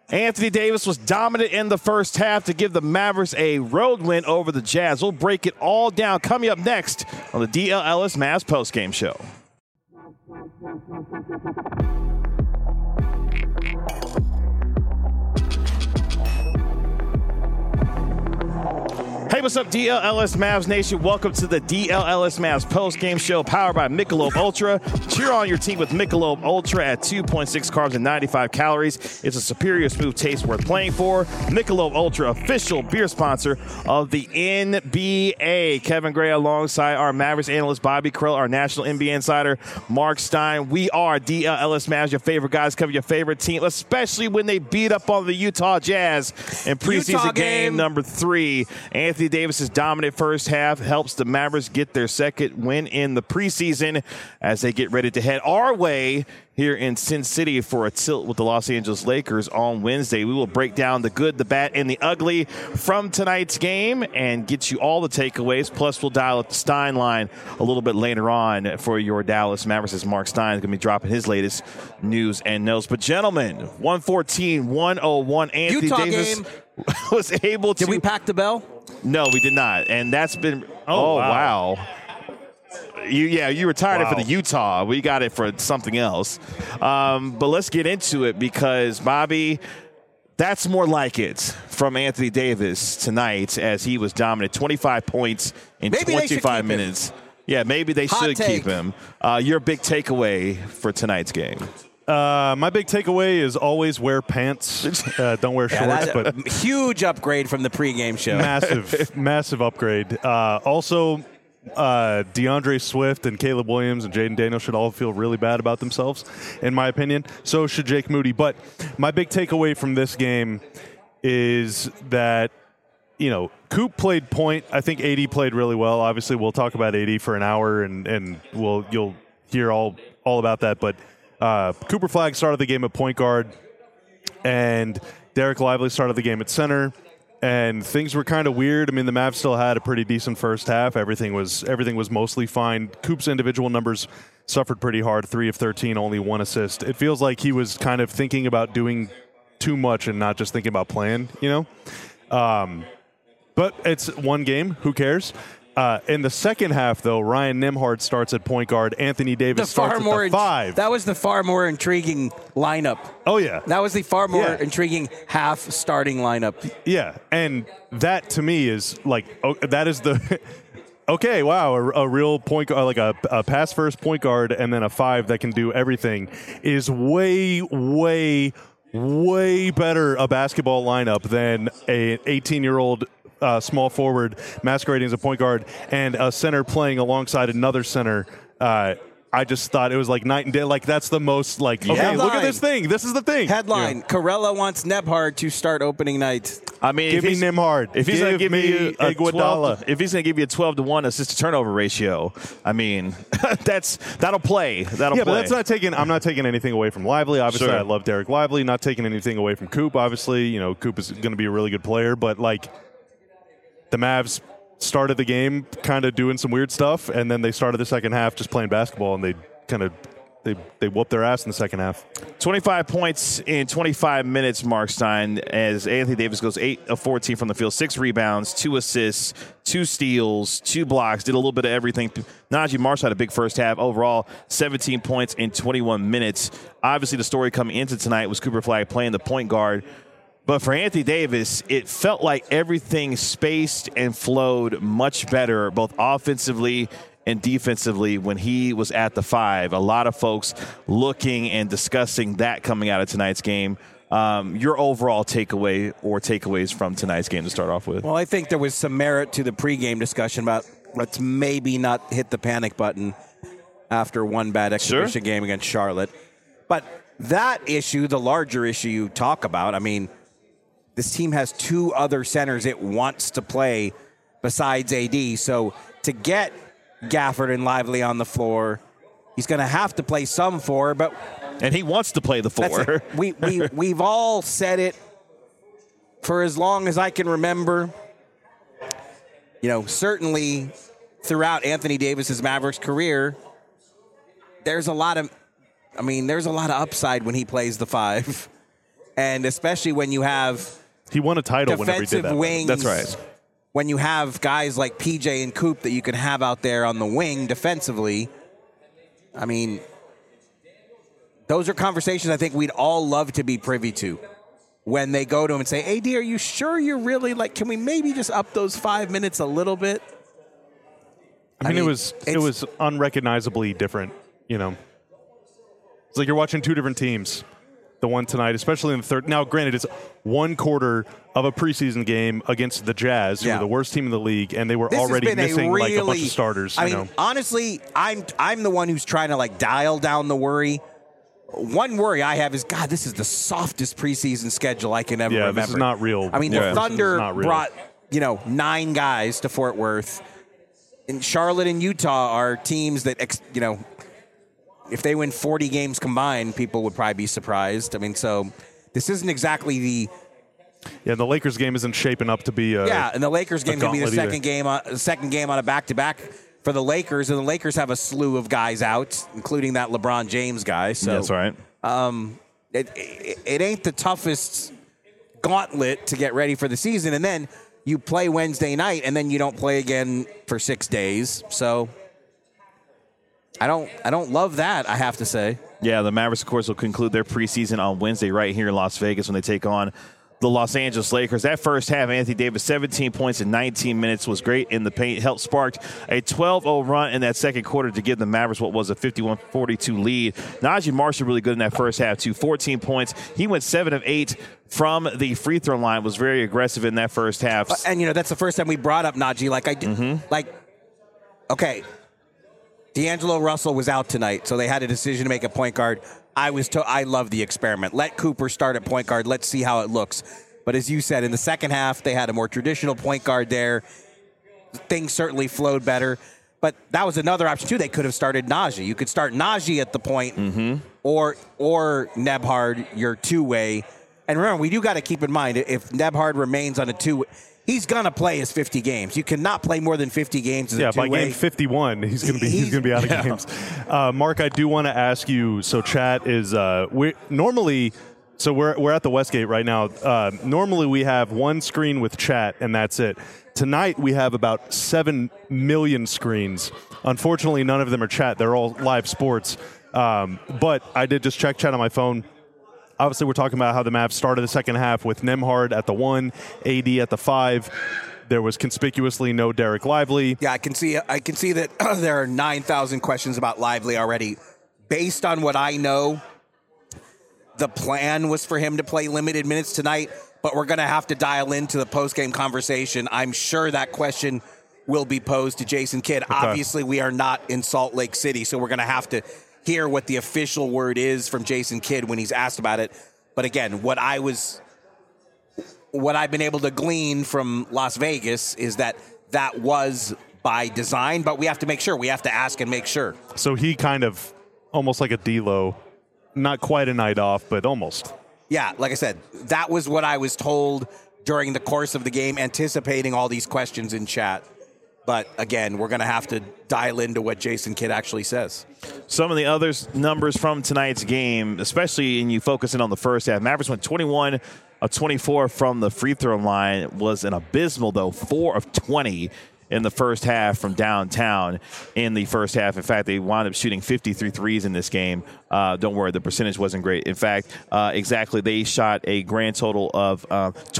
Anthony Davis was dominant in the first half to give the Mavericks a road win over the Jazz. We'll break it all down coming up next on the DL Ellis Mavs postgame show. Hey, what's up, DLLS Mavs Nation? Welcome to the DLLS Mavs post-game show powered by Michelob Ultra. Cheer on your team with Michelob Ultra at 2.6 carbs and 95 calories. It's a superior smooth taste worth playing for. Michelob Ultra, official beer sponsor of the NBA. Kevin Gray alongside our Mavericks analyst Bobby Krill, our national NBA insider Mark Stein. We are DLLS Mavs, your favorite guys, cover your favorite team, especially when they beat up on the Utah Jazz in preseason game number 3. Anthony Davis's dominant first half helps the Mavericks get their second win in the preseason as they get ready to head our way here in Sin City for a tilt with the Los Angeles Lakers on Wednesday. We will break down the good, the bad, and the ugly from tonight's game and get you all the takeaways. Plus, we'll dial up the Stein line a little bit later on for your Dallas Mavericks as Mark Stein is going to be dropping his latest news and notes. But, gentlemen, 114-101, Anthony Utah Davis game. was able to... Did we pack the bell? No, we did not. And that's been... Oh, wow. You retired it for the Utah. We got it for something else. But let's get into it because, Bobby, that's more like it from Anthony Davis tonight as he was dominant. 25 points in 25 minutes. Yeah, maybe they should keep him. Your big takeaway for tonight's game. My big takeaway is always wear pants. Don't wear shorts. But huge upgrade from the pregame show. Massive upgrade. Also, DeAndre Swift and Caleb Williams and Jaden Daniels should all feel really bad about themselves, in my opinion. So should Jake Moody. But my big takeaway from this game is that, Coop played point. I think AD played really well. Obviously, we'll talk about AD for an hour, and you'll hear all about that. But Cooper Flagg started the game at point guard, and Derek Lively started the game at center, and things were kind of weird. I mean, the Mavs still had a pretty decent first half. Everything was mostly fine. Coop's individual numbers suffered pretty hard, 3 of 13, only 1 assist. It feels like he was kind of thinking about doing too much and not just thinking about playing, But it's one game. Who cares? In the second half, though, Ryan Nembhard starts at point guard. Anthony Davis starts at the 5. That was the far more intriguing lineup. Oh, yeah. That was the far more intriguing half starting lineup. Yeah, and that to me is that is the okay, wow, a real point guard, like a pass first point guard and then a 5 that can do everything is way, way, way better a basketball lineup than an 18-year-old small forward masquerading as a point guard and a center playing alongside another center. I just thought it was like night and day. Like, that's the most, like, okay, Headline. Look at this thing. This is the thing. Headline, Corella wants Nembhard to start opening night. I mean, give me Nembhard. If he's going to give me a 12, if he's going to give you a 12-1 assist to turnover ratio, I mean, that'll play. That'll play. But that's not taking. I'm not taking anything away from Lively. Obviously, Sure. I love Derek Lively. Not taking anything away from Coop. Obviously, Coop is going to be a really good player. But like, the Mavs started the game kind of doing some weird stuff, and then they started the second half just playing basketball, and they kind of they whooped their ass in the second half. 25 points in 25 minutes, Mark Stein, as Anthony Davis goes 8 of 14 from the field, 6 rebounds, 2 assists, 2 steals, 2 blocks, did a little bit of everything. Najee Marshall had a big first half. Overall, 17 points in 21 minutes. Obviously, the story coming into tonight was Cooper Flagg playing the point guard. But for Anthony Davis, it felt like everything spaced and flowed much better, both offensively and defensively, when he was at the 5. A lot of folks looking and discussing that coming out of tonight's game. Your overall takeaway or takeaways from tonight's game to start off with? Well, I think there was some merit to the pregame discussion about let's maybe not hit the panic button after one bad exhibition game against Charlotte. But that issue, the larger issue you talk about, I mean, this team has 2 other centers it wants to play besides AD. So to get Gafford and Lively on the floor, he's going to have to play some 4. And he wants to play the 4. We've all said it for as long as I can remember. Certainly throughout Anthony Davis's Mavericks career, there's a lot of upside when he plays the 5. And especially when you have He won a title whenever he did defensive that. wings. That's right. When you have guys like PJ and Coop that you can have out there on the wing defensively, I mean, those are conversations I think we'd all love to be privy to when they go to him and say, AD, are you sure you're really like, can we maybe just up those 5 minutes a little bit? I mean, it was unrecognizably different, you know. It's like you're watching two different teams. The one tonight, especially in the third. Now, granted, it's one quarter of a preseason game against the Jazz, who are the worst team in the league, and they were already missing like a bunch of starters. I mean, honestly, I'm the one who's trying to like dial down the worry. One worry I have is, God, this is the softest preseason schedule I can ever remember. This is not real. I mean, the Thunder brought 9 guys to Fort Worth, and Charlotte and Utah are teams that if they win 40 games combined, people would probably be surprised. I mean, so this isn't exactly the... Yeah, the Lakers game isn't shaping up to be and the Lakers game can be the second game on a back-to-back for the Lakers, and the Lakers have a slew of guys out, including that LeBron James guy. So that's right. It ain't the toughest gauntlet to get ready for the season, and then you play Wednesday night, and then you don't play again for 6 days. So... I don't love that, I have to say. Yeah, the Mavericks, of course, will conclude their preseason on Wednesday right here in Las Vegas when they take on the Los Angeles Lakers. That first half, Anthony Davis, 17 points in 19 minutes, was great in the paint. Helped sparked a 12-0 run in that second quarter to give the Mavericks what was a 51-42 lead. Najee Marshall really good in that first half, too. 14 points. He went 7 of 8 from the free throw line, was very aggressive in that first half. And, that's the first time we brought up Najee. Okay, D'Angelo Russell was out tonight, so they had a decision to make a point guard. I love the experiment. Let Cooper start at point guard. Let's see how it looks. But as you said, in the second half, they had a more traditional point guard there. Things certainly flowed better. But that was another option, too. They could have started Najee. You could start Najee at the point or Nembhard, your two-way. And remember, we do got to keep in mind, if Nembhard remains on a two-way, he's gonna play his 50 games. You cannot play more than 50 games as a two-way. By game 51, he's gonna be out of games. Mark, I do want to ask you. So, chat is we're at the Westgate right now. Normally, we have one screen with chat, and that's it. Tonight, we have about 7 million screens. Unfortunately, none of them are chat. They're all live sports. But I did just check chat on my phone. Obviously, we're talking about how the Mavs started the second half with Nembhard at the 1, AD at the 5. There was conspicuously no Derek Lively. Yeah, I can see that there are 9,000 questions about Lively already. Based on what I know, the plan was for him to play limited minutes tonight, but we're going to have to dial into the post-game conversation. I'm sure that question will be posed to Jason Kidd. Okay. Obviously, we are not in Salt Lake City, so we're going to have to hear what the official word is from Jason Kidd when he's asked about it. But again, what I've been able to glean from Las Vegas is that was by design, but we have to make sure. We have to ask and make sure. So he kind of almost like a D-Lo, not quite a night off, but almost. Yeah, like I said, that was what I was told during the course of the game, anticipating all these questions in chat. But again, we're going to have to dial into what Jason Kidd actually says. Some of the other numbers from tonight's game, especially in you focusing on the first half, Mavericks went 21 of 24 from the free throw line, was an abysmal, though, 4 of 20 in the first half from downtown in the first half. In fact, they wound up shooting 53 threes in this game. Don't worry, the percentage wasn't great. In fact, they shot a grand total of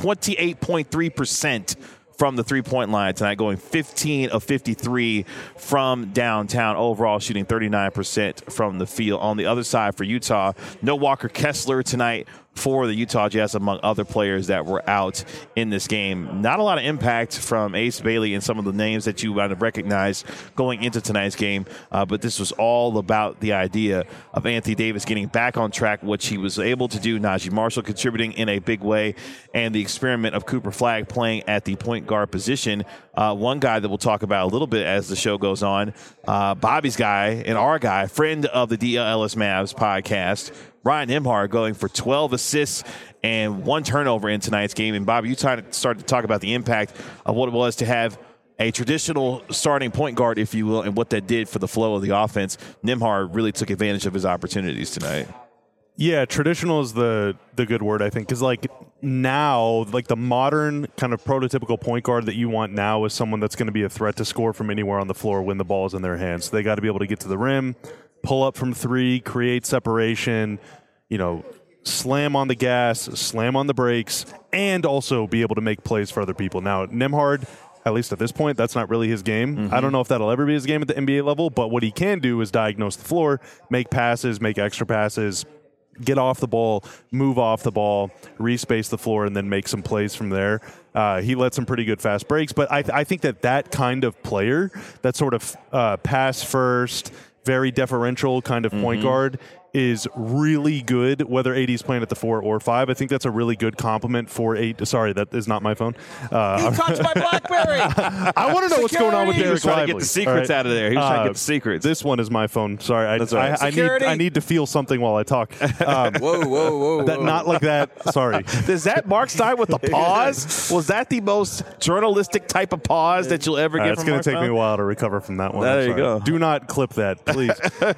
28.3% from the three-point line tonight, going 15 of 53 from downtown, overall shooting 39% from the field. On the other side for Utah, no Walker Kessler tonight for the Utah Jazz, among other players that were out in this game. Not a lot of impact from Ace Bailey and some of the names that you might have recognized going into tonight's game, but this was all about the idea of Anthony Davis getting back on track, which he was able to do. Najee Marshall contributing in a big way, and the experiment of Cooper Flagg playing at the point guard position. One guy that we'll talk about a little bit as the show goes on, Bobby's guy and our guy, friend of the DLLS Mavs podcast, Ryan Nembhard, going for 12 assists and 1 turnover in tonight's game. And, Bobby, you started to talk about the impact of what it was to have a traditional starting point guard, if you will, and what that did for the flow of the offense. Nembhard really took advantage of his opportunities tonight. Yeah, traditional is the good word, I think, because like now, like the modern kind of prototypical point guard that you want now is someone that's going to be a threat to score from anywhere on the floor when the ball is in their hands. So they got to be able to get to the rim, pull up from three, create separation, slam on the gas, slam on the brakes, and also be able to make plays for other people. Now, Nembhard, at least at this point, that's not really his game. Mm-hmm. I don't know if that'll ever be his game at the NBA level, but what he can do is diagnose the floor, make passes, make extra passes, get off the ball, move off the ball, respace the floor, and then make some plays from there. He led some pretty good fast breaks, but I think that kind of player, that sort of pass first, very deferential kind of point guard, is really good, whether AD's playing at the 4 or 5. I think that's a really good compliment for 8. Sorry, that is not my phone. He touched my BlackBerry. I want to know what's going on with He Derek was trying Lively. to get the secrets out of there. He was trying to get the secrets. This one is my phone. Sorry, right. I need to feel something while I talk. Whoa. Not like that. Sorry. Is that Mark Stein with the pause? Was that the most journalistic type of pause that you'll ever get It's from going Mark to take Stein? me a while to recover from that one. There I'm you sorry. go. Do not clip that, please.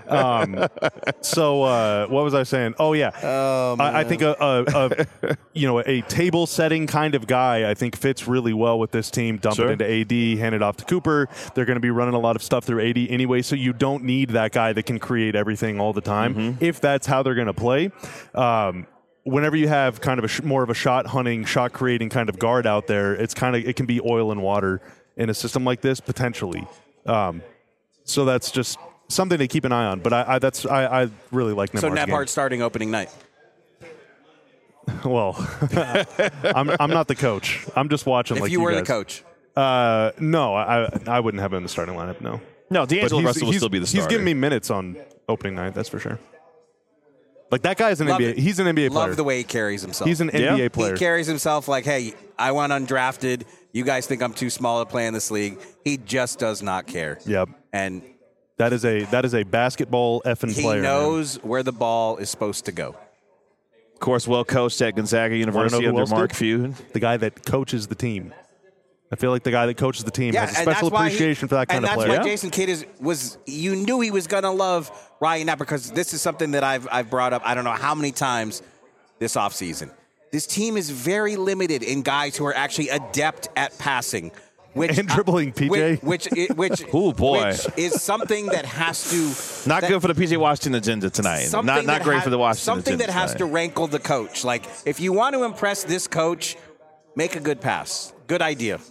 What was I saying? Oh yeah, I think a table setting kind of guy I think fits really well with this team. Dump it into AD, hand it off to Cooper. They're going to be running a lot of stuff through AD anyway, so you don't need that guy that can create everything all the time. If that's how they're going to play. Whenever you have kind of more of a shot hunting, shot creating kind of guard out there, it can be oil and water in a system like this potentially. So that's just something to keep an eye on. But I really like Nembhard's So game. Nembhard starting opening night. Well, I'm not the coach. I'm just watching. If like you were guys. the coach, no, I wouldn't have him in the starting lineup. No, D'Angelo But Russell will still be the starter. He's giving me minutes on opening night. That's for sure. Like that guy's an Love NBA. it. He's an NBA player. love the way he carries himself. He's an NBA player. He carries himself like, hey, I went undrafted. You guys think I'm too small to play in this league. He just does not care. Yep. And That is a basketball effing he player. knows where the ball is supposed to go. Of course, well coached at Gonzaga University who under else Mark did? Few. The guy that coaches the team. I feel like the guy that coaches the team has a and special that's why appreciation for that kind of player. And that's why Jason Kidd you knew he was going to love Ryan Knapp, because this is something that I've brought up I don't know how many times this offseason. This team is very limited in guys who are actually adept at passing. And dribbling, PJ. Which Ooh, boy. which is something that has to Not good for the PJ Washington agenda tonight. Not great for the Washington something agenda that has tonight. to rankle the coach. Like, if you want to impress this coach, make a good pass. Good idea.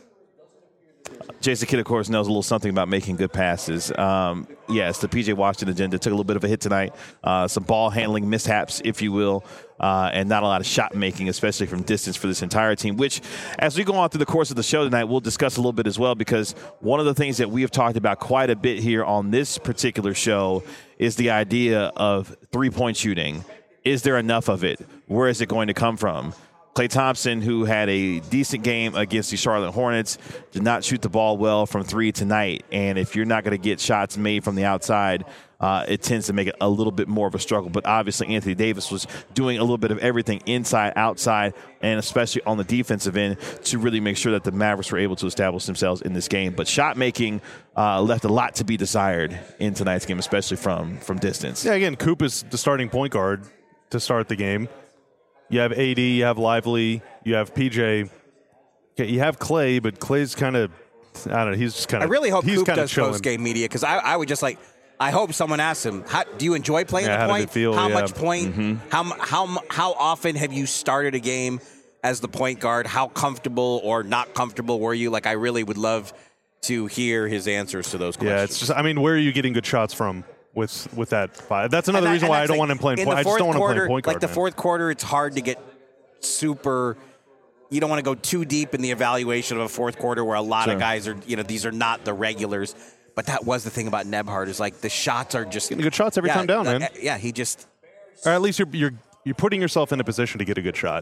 Jason Kidd, of course, knows a little something about making good passes. Yes, the P.J. Washington agenda took a little bit of a hit tonight. Some ball handling mishaps, if you will, and not a lot of shot making, especially from distance for this entire team, which, as we go on through the course of the show tonight, we'll discuss a little bit as well, because one of the things that we have talked about quite a bit here on this particular show is the idea of three-point shooting. Is there enough of it? Where is it going to come from? Klay Thompson, who had a decent game against the Charlotte Hornets, did not shoot the ball well from three tonight. And if you're not going to get shots made from the outside, it tends to make it a little bit more of a struggle. But obviously, Anthony Davis was doing a little bit of everything inside, outside, and especially on the defensive end to really make sure that the Mavericks were able to establish themselves in this game. But shot making left a lot to be desired in tonight's game, especially from distance. Yeah, again, Coop is the starting point guard to start the game. You have AD, you have Lively, you have PJ. Okay, you have Klay, but Klay's kind of, I don't know, he's just kind of. I really hope he's Coop kinda does chilling. post-game media, because I would just like, I hope someone asks him, do you enjoy playing the how point? did it feel? How Yeah. much point? How often have you started a game as the point guard? How comfortable or not comfortable were you? Like, I really would love to hear his answers to those questions. Yeah, it's just, I mean, where are you getting good shots from with that five? That's another reason why I don't want him playing point. I just don't want him playing point guard. Like the fourth quarter, it's hard to get super. You don't want to go too deep in the evaluation of a fourth quarter where a lot of guys are, these are not the regulars. But that was the thing about Nembhard, is like the shots are just getting good shots every time down, man. Yeah, he just. Or at least you're putting yourself in a position to get a good shot.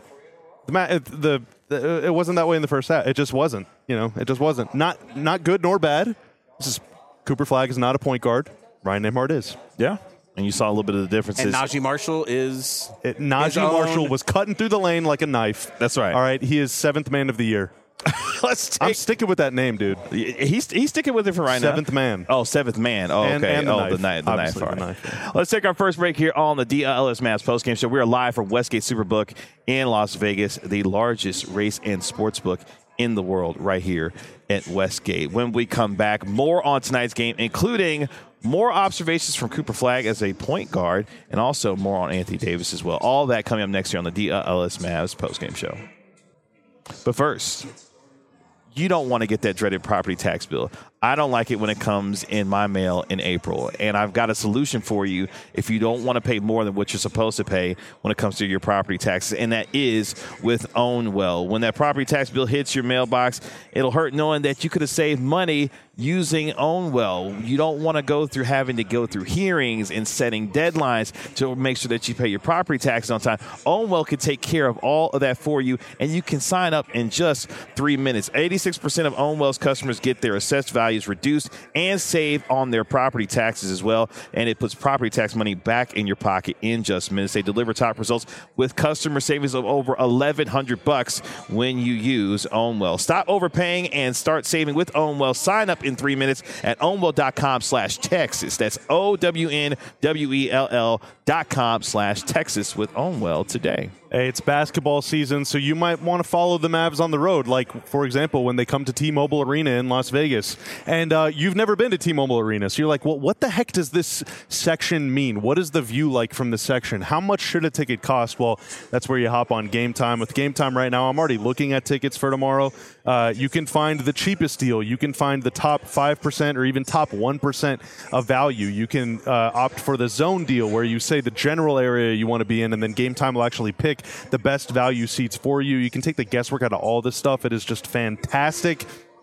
It wasn't that way in the first half. It just wasn't. It just wasn't. Not good nor bad. Cooper Flagg is not a point guard. Ryan Nembhard is. Yeah. And you saw a little bit of the differences. And Najee Marshall is. Najee Marshall was cutting through the lane like a knife. That's right. All right. He is 7th man of the year. I'm sticking with that name, dude. He's sticking with it for right now. Seventh Man. Oh, Seventh Man. Oh, okay. And the knife. Let's take our first break here on the DLS Mavs postgame show. We are live from Westgate Superbook in Las Vegas, the largest race and sports book in the world, right here at Westgate. When we come back, more on tonight's game, including more observations from Cooper Flagg as a point guard, and also more on Anthony Davis as well. All that coming up next year on the DLS Mavs postgame show. But first, you don't want to get that dreaded property tax bill. I don't like it when it comes in my mail in April, and I've got a solution for you if you don't want to pay more than what you're supposed to pay when it comes to your property taxes, and that is with OwnWell. When that property tax bill hits your mailbox, it'll hurt knowing that you could have saved money using OwnWell. You don't want to go through having to go through hearings and setting deadlines to make sure that you pay your property taxes on time. OwnWell can take care of all of that for you, and you can sign up in just 3 minutes. 86% of OwnWell's customers get their assessed values reduced and save on their property taxes as well, and it puts property tax money back in your pocket in just minutes. They deliver top results with customer savings of over $1,100 when you use OwnWell. Stop overpaying and start saving with OwnWell. Sign up in 3 minutes at ownwell.com/Texas. That's OWNWELL.com/Texas with OwnWell today. Hey, it's basketball season, so you might want to follow the Mavs on the road, like, for example, when they come to T-Mobile Arena in Las Vegas. And you've never been to T-Mobile Arena, so you're like, well, what the heck does this section mean? What is the view like from the section? How much should a ticket cost? Well, that's where you hop on Game Time. With Game Time right now, I'm already looking at tickets for tomorrow. You can find the cheapest deal. You can find the top 5% or even top 1% of value. You can opt for the zone deal, where you say the general area you want to be in, and then Game Time will actually pick the best value seats for you. You can take the guesswork out of all this stuff. It is just fantastic.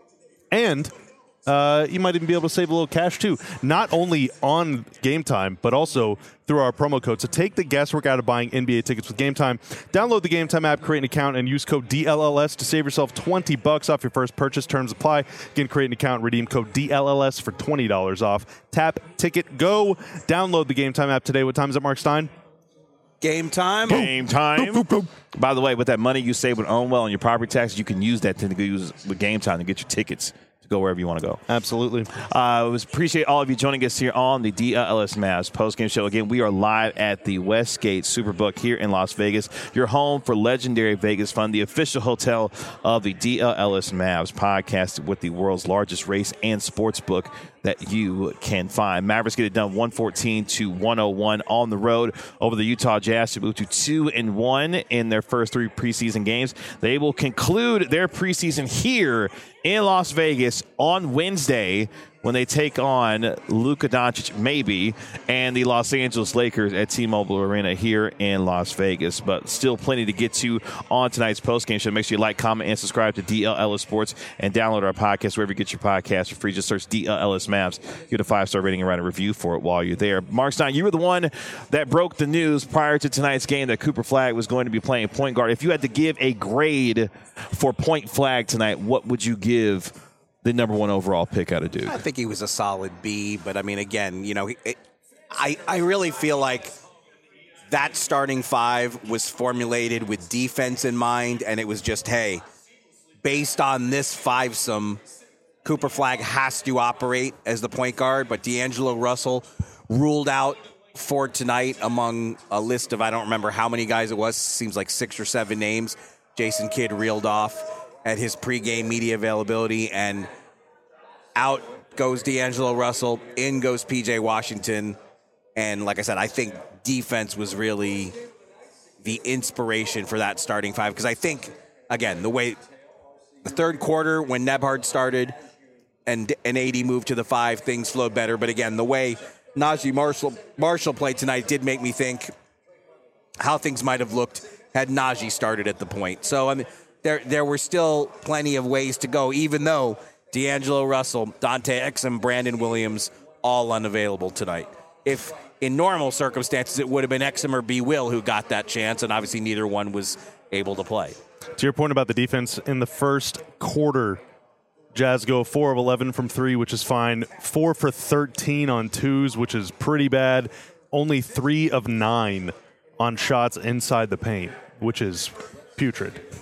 And you might even be able to save a little cash too, not only on Game Time, but also through our promo code. So take the guesswork out of buying NBA tickets with Game Time. Download the Game Time app, create an account, and use code DLLS to save yourself $20 off your first purchase. Terms apply. Again, create an account, redeem code DLLS for $20 off. Tap, ticket, go. Download the Game Time app today. What time is it, Mark Stein? Game time. Game time. By the way, with that money you save with OwnWell on your property taxes, you can use that to use with Game Time to get your tickets to go wherever you want to go. Absolutely. Appreciate all of you joining us here on the DLS Mavs postgame show. Again, we are live at the Westgate Superbook here in Las Vegas, your home for legendary Vegas fun, the official hotel of the DLS Mavs podcast with the world's largest race and sports book that you can find. Mavericks get it done 114-101 on the road over the Utah Jazz to move to 2-1 in their first 3 preseason games. They will conclude their preseason here in Las Vegas on Wednesday when they take on Luka Doncic, maybe, and the Los Angeles Lakers at T-Mobile Arena here in Las Vegas. But still plenty to get to on tonight's postgame show. Make sure you like, comment, and subscribe to DLLS Sports and download our podcast wherever you get your podcast for free. Just search DLLS Mavs. Get a 5-star rating and write a review for it while you're there. Mark Stein, you were the one that broke the news prior to tonight's game that Cooper Flagg was going to be playing point guard. If you had to give a grade for Point Flagg tonight, what would you give the number 1 overall pick out of Duke? I think he was a solid B, but I mean, again, you know, I really feel like that starting 5 was formulated with defense in mind, and it was just, hey, based on this fivesome, Cooper Flagg has to operate as the point guard, but D'Angelo Russell ruled out for tonight among a list of, I don't remember how many guys it was, seems like 6 or 7 names Jason Kidd reeled off at his pregame media availability, and out goes D'Angelo Russell, in goes P.J. Washington, and like I said, I think defense was really the inspiration for that starting 5, because I think, again, the way the third quarter when Nembhard started and AD moved to the 5, things flowed better, but again, the way Najee Marshall played tonight did make me think how things might have looked had Najee started at the point. So, I mean, there were still plenty of ways to go, even though D'Angelo Russell, Dante Exum, Brandon Williams, all unavailable tonight. If in normal circumstances, it would have been Exum or B. Will who got that chance, and obviously neither one was able to play. To your point about the defense, in the first quarter, Jazz go 4 of 11 from 3, which is fine. 4 for 13 on 2s, which is pretty bad. Only 3 of 9 on shots inside the paint, which is putrid.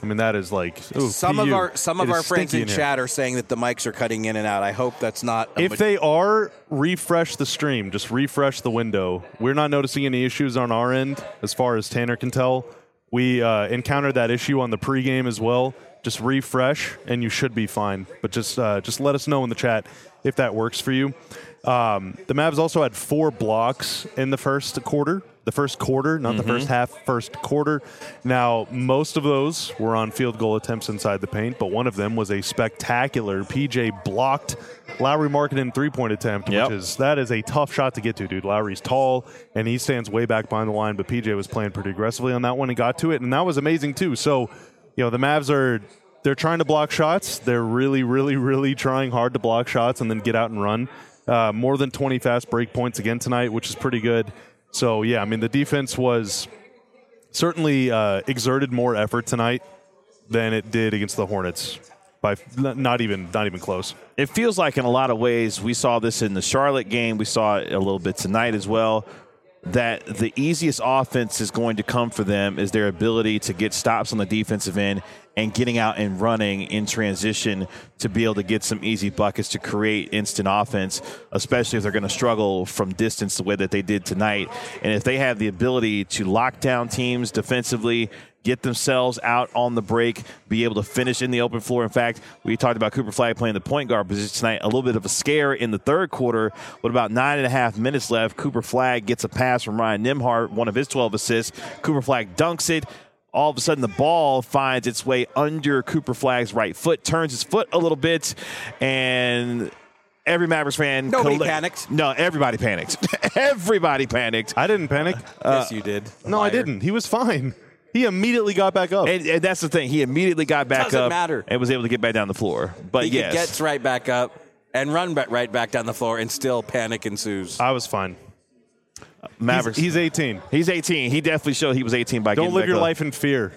I mean, that is like some PU. of our friends in here. chat are saying that the mics are cutting in and out. I hope that's not. If they are, refresh the stream. Just refresh the window. We're not noticing any issues on our end, as far as Tanner can tell. We encountered that issue on the pregame as well. Just refresh, and you should be fine. But just let us know in the chat if that works for you. The Mavs also had 4 blocks in the first quarter. The first quarter, not the first half, first quarter. Now, most of those were on field goal attempts inside the paint, but one of them was a spectacular PJ blocked Lauri Markkanen three-point attempt, that is a tough shot to get to, dude. Lauri's tall, and he stands way back behind the line, but PJ was playing pretty aggressively on that one and got to it, and that was amazing too. So, the Mavs they're trying to block shots. They're really, really, really trying hard to block shots and then get out and run. More than 20 fast break points again tonight, which is pretty good. So, yeah, I mean, the defense was certainly exerted more effort tonight than it did against the Hornets. By not even close. It feels like in a lot of ways, we saw this in the Charlotte game. We saw it a little bit tonight as well, that the easiest offense is going to come for them is their ability to get stops on the defensive end and getting out and running in transition to be able to get some easy buckets to create instant offense, especially if they're going to struggle from distance the way that they did tonight. And if they have the ability to lock down teams defensively, get themselves out on the break, be able to finish in the open floor. In fact, we talked about Cooper Flagg playing the point guard position tonight. A little bit of a scare in the third quarter. With about 9.5 minutes left, Cooper Flagg gets a pass from Ryan Nembhard, one of his 12 assists. Cooper Flagg dunks it. All of a sudden, the ball finds its way under Cooper Flagg's right foot, turns his foot a little bit, and every Mavericks fan... Nobody panicked. No, everybody panicked. Everybody panicked. I didn't panic. Yes, you did. No, I didn't. He was fine. He immediately got back up. And that's the thing. He immediately got back Doesn't up matter. and was able to get back down the floor. But he gets right back up and run right back down the floor, and still panic ensues. I was fine. Mavericks. He's 18. He's 18. He definitely showed he was 18 by Don't getting live back your up. life in fear.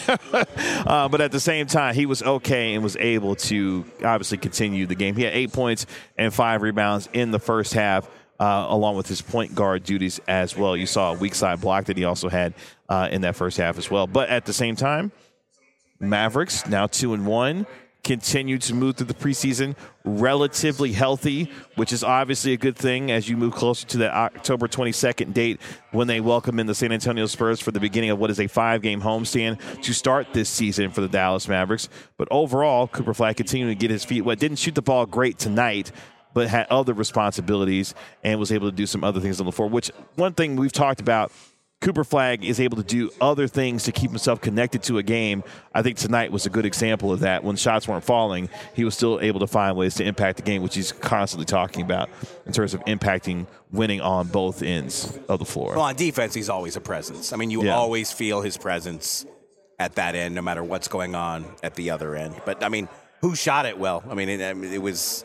But at the same time, he was okay and was able to obviously continue the game. He had 8 points and 5 rebounds in the first half, along with his point guard duties as well. You saw a weak side block that he also had in that first half as well. But at the same time, Mavericks now 2-1. Continue to move through the preseason relatively healthy, which is obviously a good thing as you move closer to that October 22nd date when they welcome in the San Antonio Spurs for the beginning of what is a 5-game homestand to start this season for the Dallas Mavericks. But overall, Cooper Flagg continuing to get his feet wet. Didn't shoot the ball great tonight, but had other responsibilities and was able to do some other things on the floor, which one thing we've talked about, Cooper Flagg is able to do other things to keep himself connected to a game. I think tonight was a good example of that. When shots weren't falling, he was still able to find ways to impact the game, which he's constantly talking about in terms of impacting winning on both ends of the floor. Well, on defense, he's always a presence. I mean, you always feel his presence at that end, no matter what's going on at the other end. But, I mean, who shot it well? I mean, it was,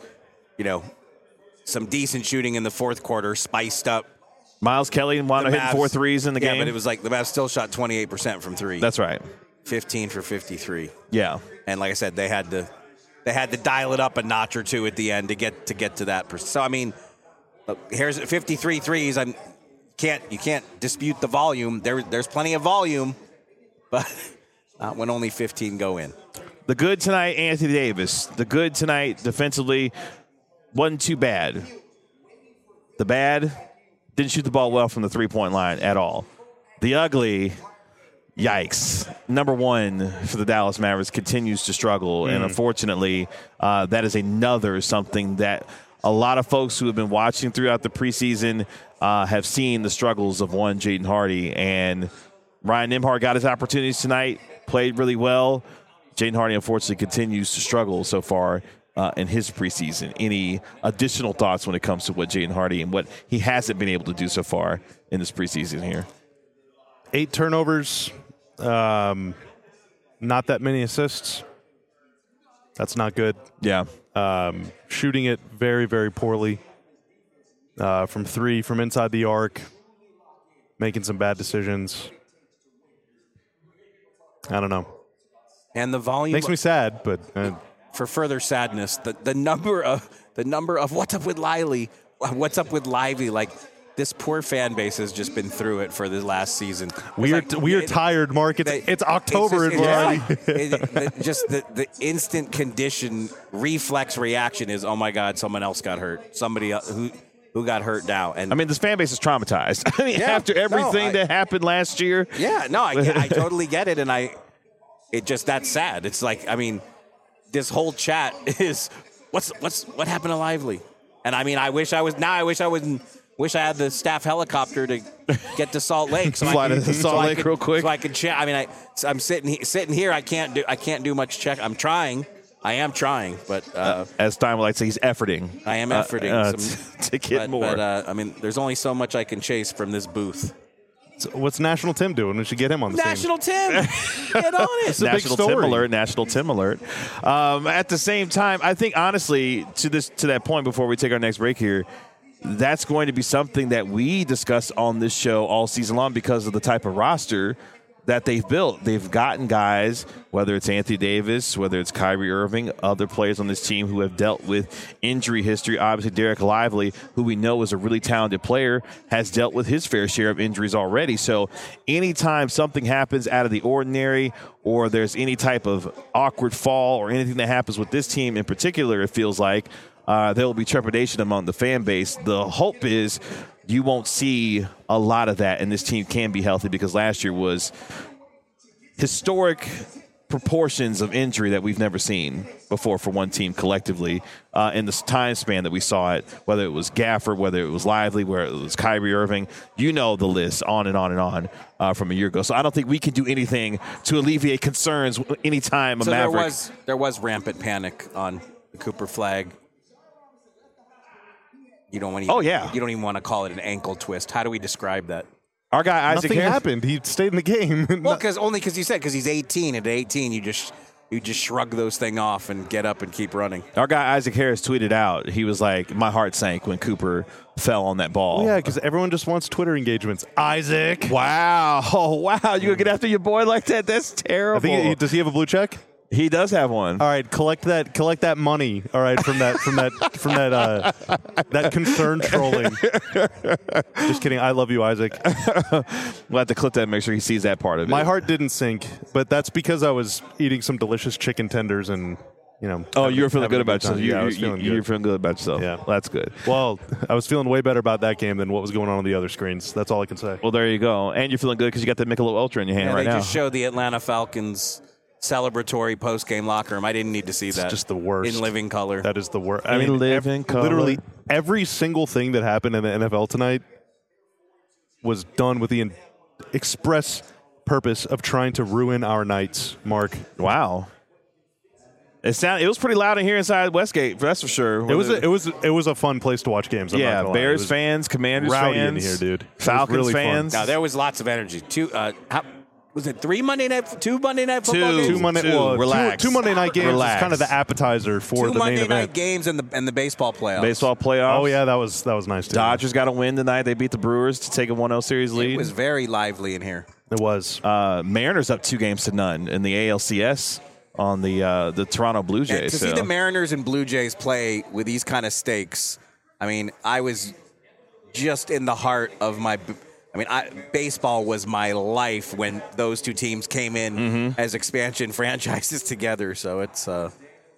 some decent shooting in the fourth quarter, spiced up. Miles Kelly wound up hitting 4 threes in the game. Yeah, but it was like the Mavs still shot 28% from 3. That's right. 15 for 53. Yeah. And like I said, they had to dial it up a notch or two at the end to get to that. So I mean, here's 53 threes. You can't dispute the volume. There's plenty of volume, but not when only 15 go in. The good tonight, Anthony Davis. The good tonight defensively wasn't too bad. The bad, didn't shoot the ball well from the three-point line at all. The ugly, yikes. Number 1 for the Dallas Mavericks continues to struggle, and unfortunately, that is another something that a lot of folks who have been watching throughout the preseason have seen the struggles of one Jaden Hardy, and Ryan Nembhard got his opportunities tonight, played really well. Jaden Hardy, unfortunately, continues to struggle so far in his preseason. Any additional thoughts when it comes to what Jaden Hardy and what he hasn't been able to do so far in this preseason here? 8 turnovers, not that many assists. That's not good. Yeah. Shooting it very, very poorly from 3, from inside the arc, making some bad decisions. I don't know. And the volume makes me sad, but for further sadness, the number of what's up with Lively, like this poor fan base has just been through it for the last season. We are tired, Mark. It's October and we're already. Just the instant condition reflex reaction is, oh my God, someone else got hurt. Somebody else, who got hurt now. And I mean, this fan base is traumatized. I mean, after everything that happened last year. Yeah, no, I totally get it, and that's sad. It's like, I mean, this whole chat is what happened to Lively? And I mean, I wish I had the staff helicopter to get to Salt Lake. So fly to Salt Lake real quick. So I could chat. I mean, I'm sitting here. I can't do much check. I'm trying. I am trying, but as Stein would like to say, he's efforting. I am efforting to get more. But I mean, there's only so much I can chase from this booth. So what's National Tim doing? We should get him on the National Tim, get on it. It's a big story. National Tim alert. At the same time, I think honestly, to that point before we take our next break here, that's going to be something that we discuss on this show all season long because of the type of roster that they've built. They've gotten guys, whether it's Anthony Davis, whether it's Kyrie Irving, other players on this team who have dealt with injury history. Obviously, Derek Lively, who we know is a really talented player, has dealt with his fair share of injuries already. So anytime something happens out of the ordinary or there's any type of awkward fall or anything that happens with this team in particular, it feels like there will be trepidation among the fan base. The hope is you won't see a lot of that, and this team can be healthy because last year was historic proportions of injury that we've never seen before for one team collectively in this time span that we saw it, whether it was Gafford, whether it was Lively, whether it was Kyrie Irving. You know the list, on and on and on from a year ago. So I don't think we can do anything to alleviate concerns anytime a Maverick. There was rampant panic on the Cooper Flag. You don't even want to call it an ankle twist. How do we describe that? Our guy Isaac Nothing happened. He stayed in the game. Well, because you said he's 18. At 18, you just shrug those things off and get up and keep running. Our guy Isaac Harris tweeted out. He was like, "My heart sank when Cooper fell on that ball." Yeah, because everyone just wants Twitter engagements. Isaac. Wow. Oh, wow. You gonna get after your boy like that? That's terrible. I think does he have a blue check? He does have one. All right, collect that money. All right, from that concern trolling. Just kidding. I love you, Isaac. We'll have to clip that and make sure he sees that part of it. My heart didn't sink, but that's because I was eating some delicious chicken tenders and, you know. Oh, you were feeling good about yourself. Yeah, I was feeling good. You were feeling good about yourself. Yeah. Well, that's good. Well, I was feeling way better about that game than what was going on the other screens. That's all I can say. Well, there you go. And you're feeling good because you got the Michelob Ultra in your hand right now. They just showed the Atlanta Falcons celebratory post-game locker room. I didn't need to see that. It's just the worst. In living color. That is the worst. I mean, literally every single thing that happened in the NFL tonight was done with the express purpose of trying to ruin our nights, Mark. Wow. It was pretty loud in here inside Westgate, that's for sure. It was a fun place to watch games. I'm not gonna Bears fans, Commanders rowdy fans, in here, dude. Falcons really fans. Now there was lots of energy. Was it two Monday night football games? Two Monday night games is kind of the appetizer for the main Monday event. night games and the baseball playoffs. Baseball playoffs. Oh yeah, that was nice too. Dodgers got a win tonight. They beat the Brewers to take a 1-0 series lead. It was very lively in here. It was. Mariners up 2-0 in the ALCS on the Toronto Blue Jays. To see the Mariners and Blue Jays play with these kind of stakes, I mean, I was just in the heart of my. I mean, baseball was my life when those two teams came in as expansion franchises together. So it's a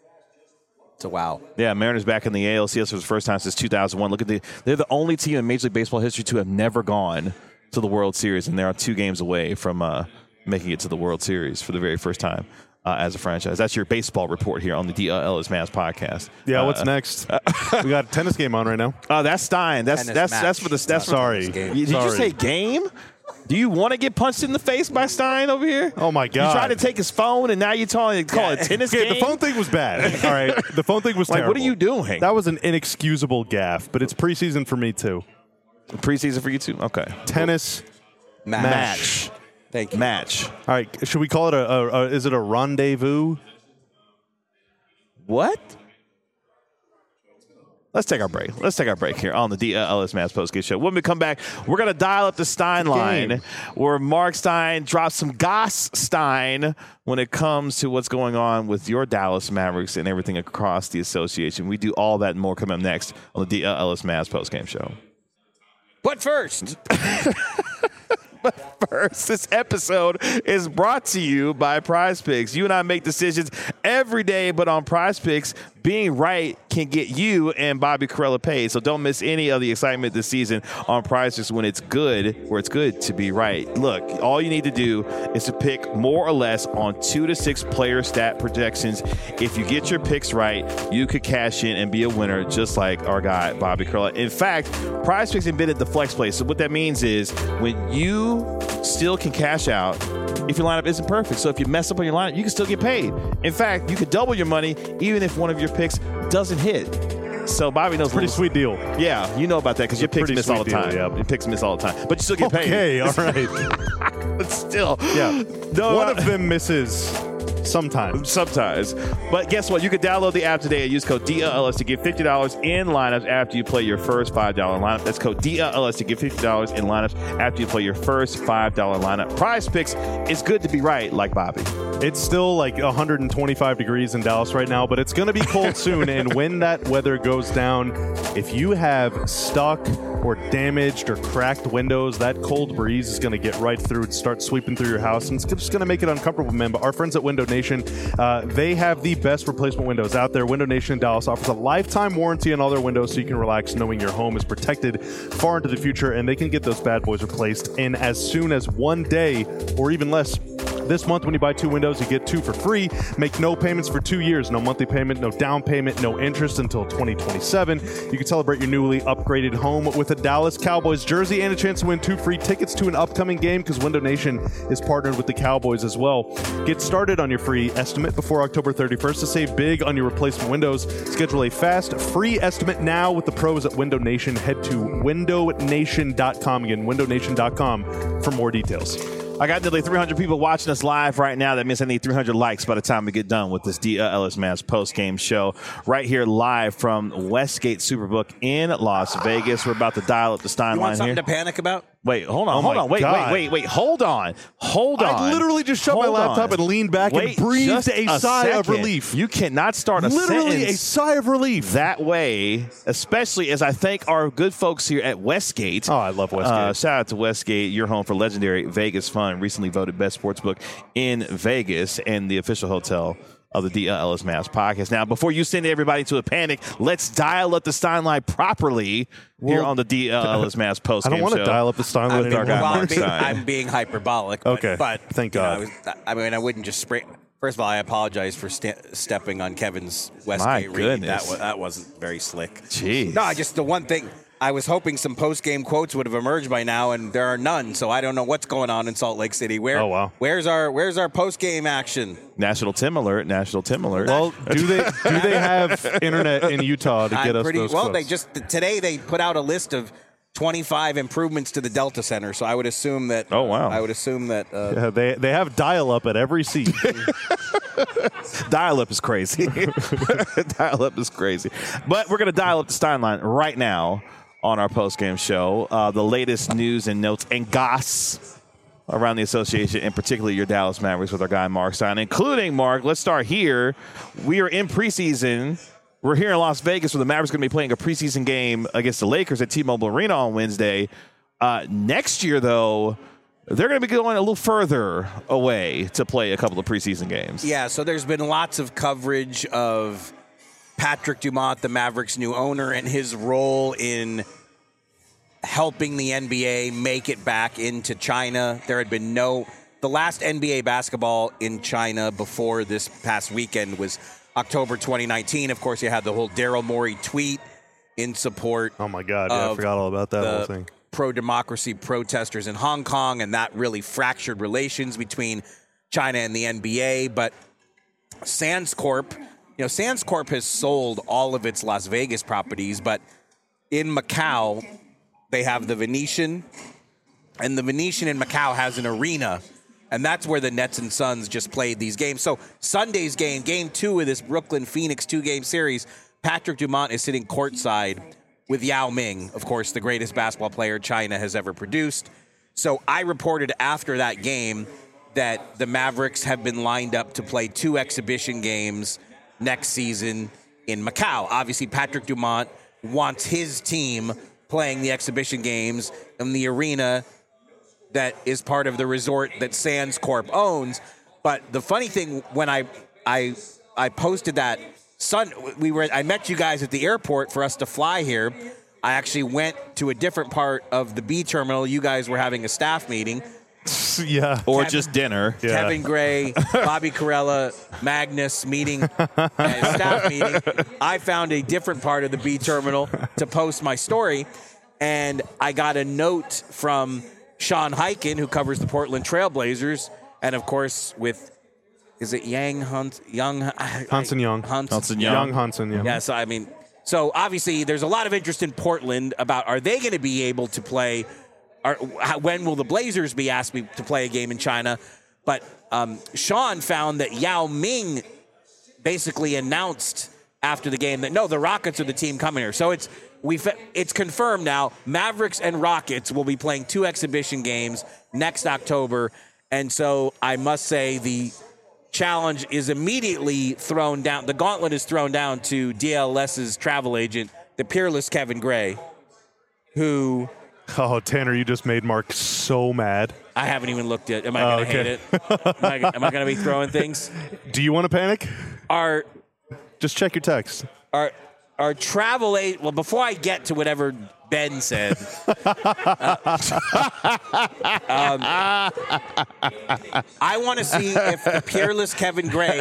wow. Yeah, Mariners back in the ALCS for the first time since 2001. They're the only team in Major League Baseball history to have never gone to the World Series, and they are 2 games away from making it to the World Series for the very first time as a franchise. That's your baseball report here on the DLS Mavs podcast. Yeah, what's next? We got a tennis game on right now. Oh, that's Stein. That's for the. Sorry. Did you say game? Do you want to get punched in the face by Stein over here? Oh my God! You tried to take his phone, and now you're call it tennis game. The phone thing was bad. All right, the phone thing was terrible. What are you doing? That was an inexcusable gaffe. But it's preseason for me too. Preseason for you too. Okay. Tennis match. Thank you. Match. All right. Should we call it is it a rendezvous? What? Let's take our break here on the DLS Mavs postgame show. When we come back, we're going to dial up the Stein line where Mark Stein drops some Goss Stein when it comes to what's going on with your Dallas Mavericks and everything across the association. We do all that and more coming up next on the DLS Mavs postgame show. But first, this episode is brought to you by Prize Picks. You and I make decisions every day, but on Prize Picks, being right can get you and Bobby Karalla paid. So don't miss any of the excitement this season on Prize Picks when it's good, where it's good to be right. Look, all you need to do is to pick more or less on 2 to 6 player stat projections. If you get your picks right, you could cash in and be a winner just like our guy, Bobby Karalla. In fact, Prize Picks invented the flex play. So what that means is when you still can cash out if your lineup isn't perfect. So if you mess up on your lineup, you can still get paid. In fact, you could double your money even if one of your picks doesn't hit. So Bobby knows. Pretty sweet deal. Yeah, you know about that because your picks miss all the time. Deal, yeah. Your picks miss all the time. But you still get paid. Okay, all right. But still. Yeah. One of them misses sometimes. But guess what? You can download the app today and use code DLLS to get $50 in lineups after you play your first $5 lineup. That's code DLLS to get $50 in lineups after you play your first $5 lineup. Prize Picks is good to be right, like Bobby. It's still like 125 degrees in Dallas right now, but it's going to be cold soon. And when that weather goes down, if you have stuck or damaged or cracked windows, that cold breeze is going to get right through and start sweeping through your house. And it's just going to make it uncomfortable, man. But our friends at Window Nation, they have the best replacement windows out there. Window Nation in Dallas offers a lifetime warranty on all their windows, so you can relax knowing your home is protected far into the future. And they can get those bad boys replaced in as soon as 1 day or even less. This month, when you buy 2 windows, you get 2 for free. Make no payments for 2 years. No monthly payment, no down payment, no interest until 2027. You can celebrate your newly upgraded home with a Dallas Cowboys jersey and a chance to win 2 free tickets to an upcoming game because Window Nation is partnered with the Cowboys as well. Get started on your free estimate before October 31st to save big on your replacement windows. Schedule a fast, free estimate now with the pros at Window Nation. Head to windownation.com. Again, windownation.com for more details. I got nearly 300 people watching us live right now. That means I need 300 likes by the time we get done with this DLS Mavs post-game show right here live from Westgate Superbook in Las Vegas. We're about to dial up the Steinlein here. You want something to panic about? Wait, hold on. Wait, hold on. I literally just shut my laptop and leaned back and breathed a sigh of relief. You cannot start a sentence. Literally a sigh of relief. That way, especially as I thank our good folks here at Westgate. Oh, I love Westgate. Shout out to Westgate, your home for legendary Vegas fun. Recently voted best sportsbook in Vegas and the official hotel of the DLS Mavs podcast. Now, before you send everybody to a panic, let's dial up the Steinlein properly here on the DLS Mavs post game show. I don't want to dial up the Steinlein anymore. I'm being hyperbolic. Okay, but thank God. I wouldn't just spray. First of all, I apologize for stepping on Kevin's Westgate read. Goodness. That wasn't very slick. Jeez. No, just the one thing. I was hoping some post-game quotes would have emerged by now, and there are none. So I don't know what's going on in Salt Lake City. Where's our post-game action? National Tim Alert. Well, do they have internet in Utah to get us those quotes? Today they put out a list of 25 improvements to the Delta Center. So I would assume that. Oh wow! I would assume that. They have dial-up at every seat. Dial-up is crazy. Dial-up is crazy. But we're going to dial up the Steinlein right now on our post-game show. The latest news and notes and goss around the association, and particularly your Dallas Mavericks with our guy Mark Stein, including Mark. Let's start here. We are in preseason. We're here in Las Vegas where the Mavericks are going to be playing a preseason game against the Lakers at T-Mobile Arena on Wednesday. Next year, though, they're going to be going a little further away to play a couple of preseason games. Yeah, so there's been lots of coverage of Patrick Dumont, the Mavericks' new owner, and his role in helping the NBA make it back into China. There had been the last NBA basketball in China before this past weekend was October 2019. Of course, you had the whole Daryl Morey tweet in support. Oh my God! Yeah, I forgot all about that whole thing. Pro-democracy protesters in Hong Kong, and that really fractured relations between China and the NBA. But Sands Corp has sold all of its Las Vegas properties, but in Macau, they have the Venetian, and the Venetian in Macau has an arena, and that's where the Nets and Suns just played these games. So Sunday's game 2 of this Brooklyn-Phoenix 2-game series, Patrick Dumont is sitting courtside with Yao Ming, of course, the greatest basketball player China has ever produced. So I reported after that game that the Mavericks have been lined up to play 2 exhibition games next season in Macau. Obviously, Patrick Dumont wants his team playing the exhibition games in the arena that is part of the resort that Sands Corp owns. But the funny thing, when I posted that, I met you guys at the airport for us to fly here. I actually went to a different part of the B terminal. You guys were having a staff meeting. Yeah. Or just dinner. Yeah. Kevin Gray, Bobby Carella, Magnus meeting, staff meeting. I found a different part of the B terminal to post my story, and I got a note from Sean Highkin, who covers the Portland Trailblazers, and of course is it Hanson Young? Hanson Young. Young Hanson, yeah. Yeah, so obviously there's a lot of interest in Portland about, are they going to be able to play, when will the Blazers be asked to play a game in China? But Sean found that Yao Ming basically announced after the game that, no, the Rockets are the team coming here. So it's confirmed now. Mavericks and Rockets will be playing 2 exhibition games next October. And so I must say the challenge is immediately thrown down. The gauntlet is thrown down to DLS's travel agent, the peerless Kevin Gray, who... Oh, Tanner, you just made Mark so mad. I haven't even looked at it. Am I going to hate it? Am I going to be throwing things? Do you want to panic? Just check your text. Our travel agent... Well, before I get to whatever Ben said... I want to see if the peerless Kevin Gray...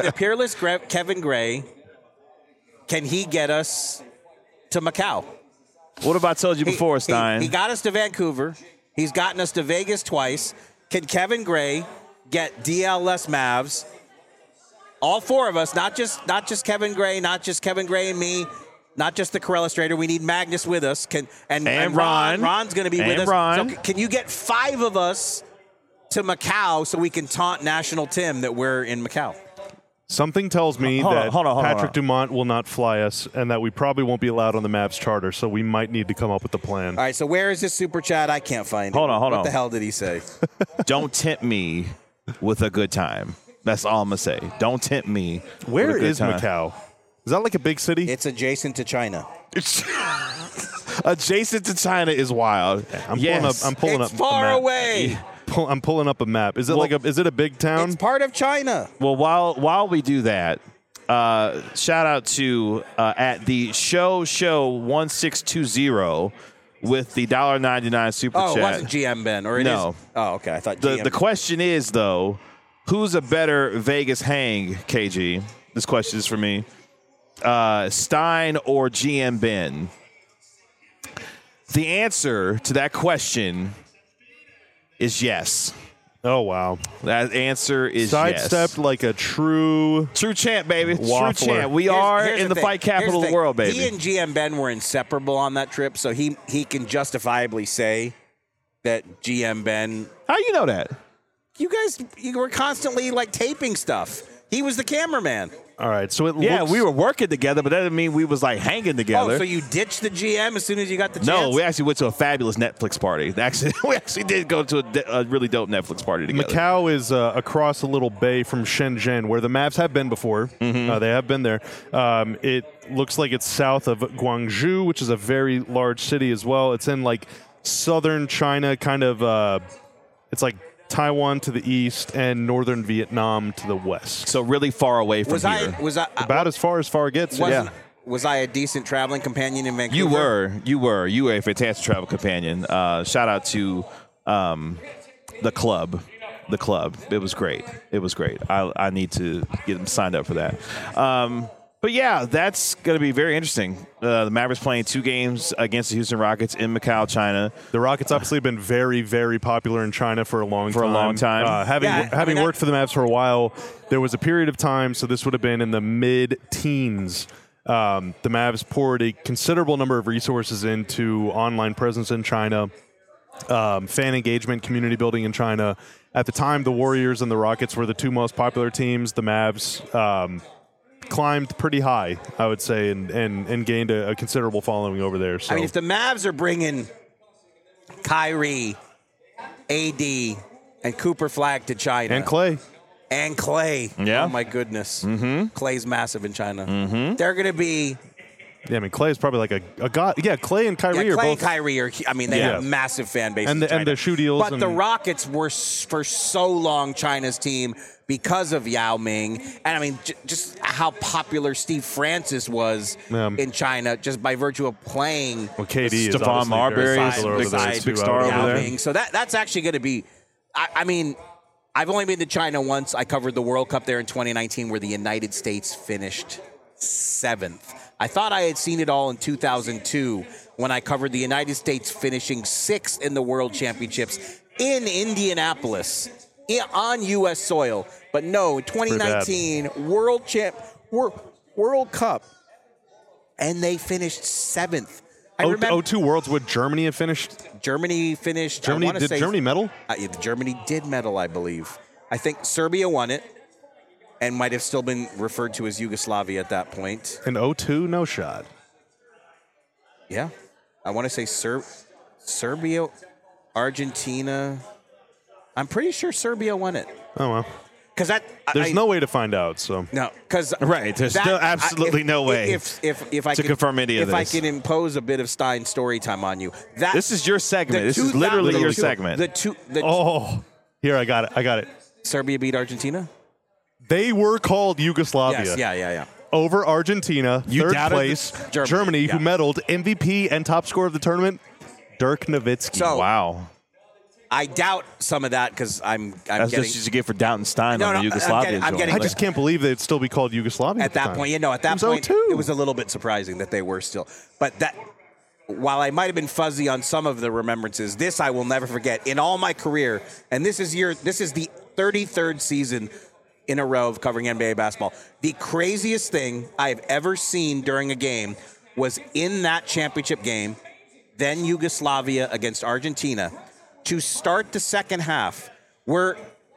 Can he get us to Macau? What have I told you before, Stein? He got us to Vancouver. He's gotten us to Vegas twice. Can Kevin Gray get DLS Mavs, all 4 of us, not just Kevin Gray, not just Kevin Gray and me, not just the Carella Strader. We need Magnus with us. And Ron. Ron's going to be with us. Ron. So can you get 5 of us to Macau so we can taunt National Tim that we're in Macau? Something tells me that hold on. Patrick Dumont will not fly us and that we probably won't be allowed on the Mavs charter, so we might need to come up with a plan. All right, so where is this super chat? I can't find it. Hold on. What the hell did he say? Don't tempt me with a good time. That's all I'm going to say. Don't tempt me Where with a good is time. Macau? Is that like a big city? It's adjacent to China. Adjacent to China is wild. I'm pulling up It's far a map. away. I'm pulling up a map. Is it is it a big town? It's part of China. Well, while we do that, shout out to at the show 1620 with the $1.99 super chat. Oh, it wasn't GM Ben, or it No. is? Oh, okay. I thought GM. The question is though, who's a better Vegas hang, KG? This question is for me. Stein or GM Ben? The answer to that question is yes. Oh, wow. That answer is Sidestepped yes. like a true champ, baby. Waffler. True champ. We are in the fight capital of the world, baby. He and GM Ben were inseparable on that trip, so he can justifiably say that GM Ben... How you know that? You were constantly, taping stuff. He was the cameraman. All right, so we were working together, but that didn't mean we was hanging together. Oh, so you ditched the GM as soon as you got the chance? No, we actually went to a fabulous Netflix party. We actually did go to a really dope Netflix party together. Macau is across a little bay from Shenzhen, where the Mavs have been before. Mm-hmm. They have been there. It looks like it's south of Guangzhou, which is a very large city as well. It's in southern China, kind of. It's like Taiwan to the east and northern Vietnam to the west. So really far away from here. About as far gets. Yeah. Was I a decent traveling companion in Vancouver? You were a fantastic travel companion. Shout out to the club. It was great. I need to get them signed up for that. But yeah, that's going to be very interesting. The Mavericks playing 2 games against the Houston Rockets in Macau, China. The Rockets obviously have been very, very popular in China for a long time. Having worked for the Mavs for a while, there was a period of time, so this would have been in the mid-teens. The Mavs poured a considerable number of resources into online presence in China, fan engagement, community building in China. At the time, the Warriors and the Rockets were the 2 most popular teams. The Mavs climbed pretty high, I would say, and gained a considerable following over there. So. I mean, if the Mavs are bringing Kyrie, AD, and Cooper Flag to China. And Clay. Yeah. Oh, my goodness. Mm-hmm. Clay's massive in China. Mm-hmm. They're going to be Yeah, I mean, Clay is probably like a god. Yeah, Clay and Kyrie Yeah, are Clay both. and Kyrie are. I mean, they have massive fan bases. And the shoe deals. But the Rockets were for so long China's team because of Yao Ming, and I mean, just how popular Steve Francis was in China, just by virtue of playing. Well, KD is Stephon Marbury is big star over there. Ming. So that's actually going to be. I mean, I've only been to China once. I covered the World Cup there in 2019, where the United States finished 7th. I thought I had seen it all in 2002 when I covered the United States finishing 6th in the World Championships in Indianapolis on U.S. soil. But no, 2019 World Cup, and they finished 7th. I remember 02 Worlds would Germany have finished? Germany finished. Did Germany medal? Germany did medal, I believe. I think Serbia won it, and might have still been referred to as Yugoslavia at that point. In 02, no shot. Yeah. I want to say Serbia, Argentina. I'm pretty sure Serbia won it. Oh, well. Because there's no way to find out. So no, because there's still absolutely no way if I to confirm any of this. If I can impose a bit of Stein story time on you, this is your segment. This is literally your segment. Here I got it. Serbia beat Argentina. They were called Yugoslavia. Yes, yeah. Over Argentina, third place, Germany, who medaled MVP and top scorer of the tournament, Dirk Nowitzki. So, wow. I doubt some of that because That's just what you get for doubting Stein on the Yugoslavia. I just can't believe they'd still be called Yugoslavia at that point. At that point, it was a little bit surprising that they were still. But that, while I might have been fuzzy on some of the remembrances, this I will never forget in all my career. And this is the 33rd season in a row of covering NBA basketball. The craziest thing I've ever seen during a game was in that championship game, then Yugoslavia against Argentina. To start the second half, we're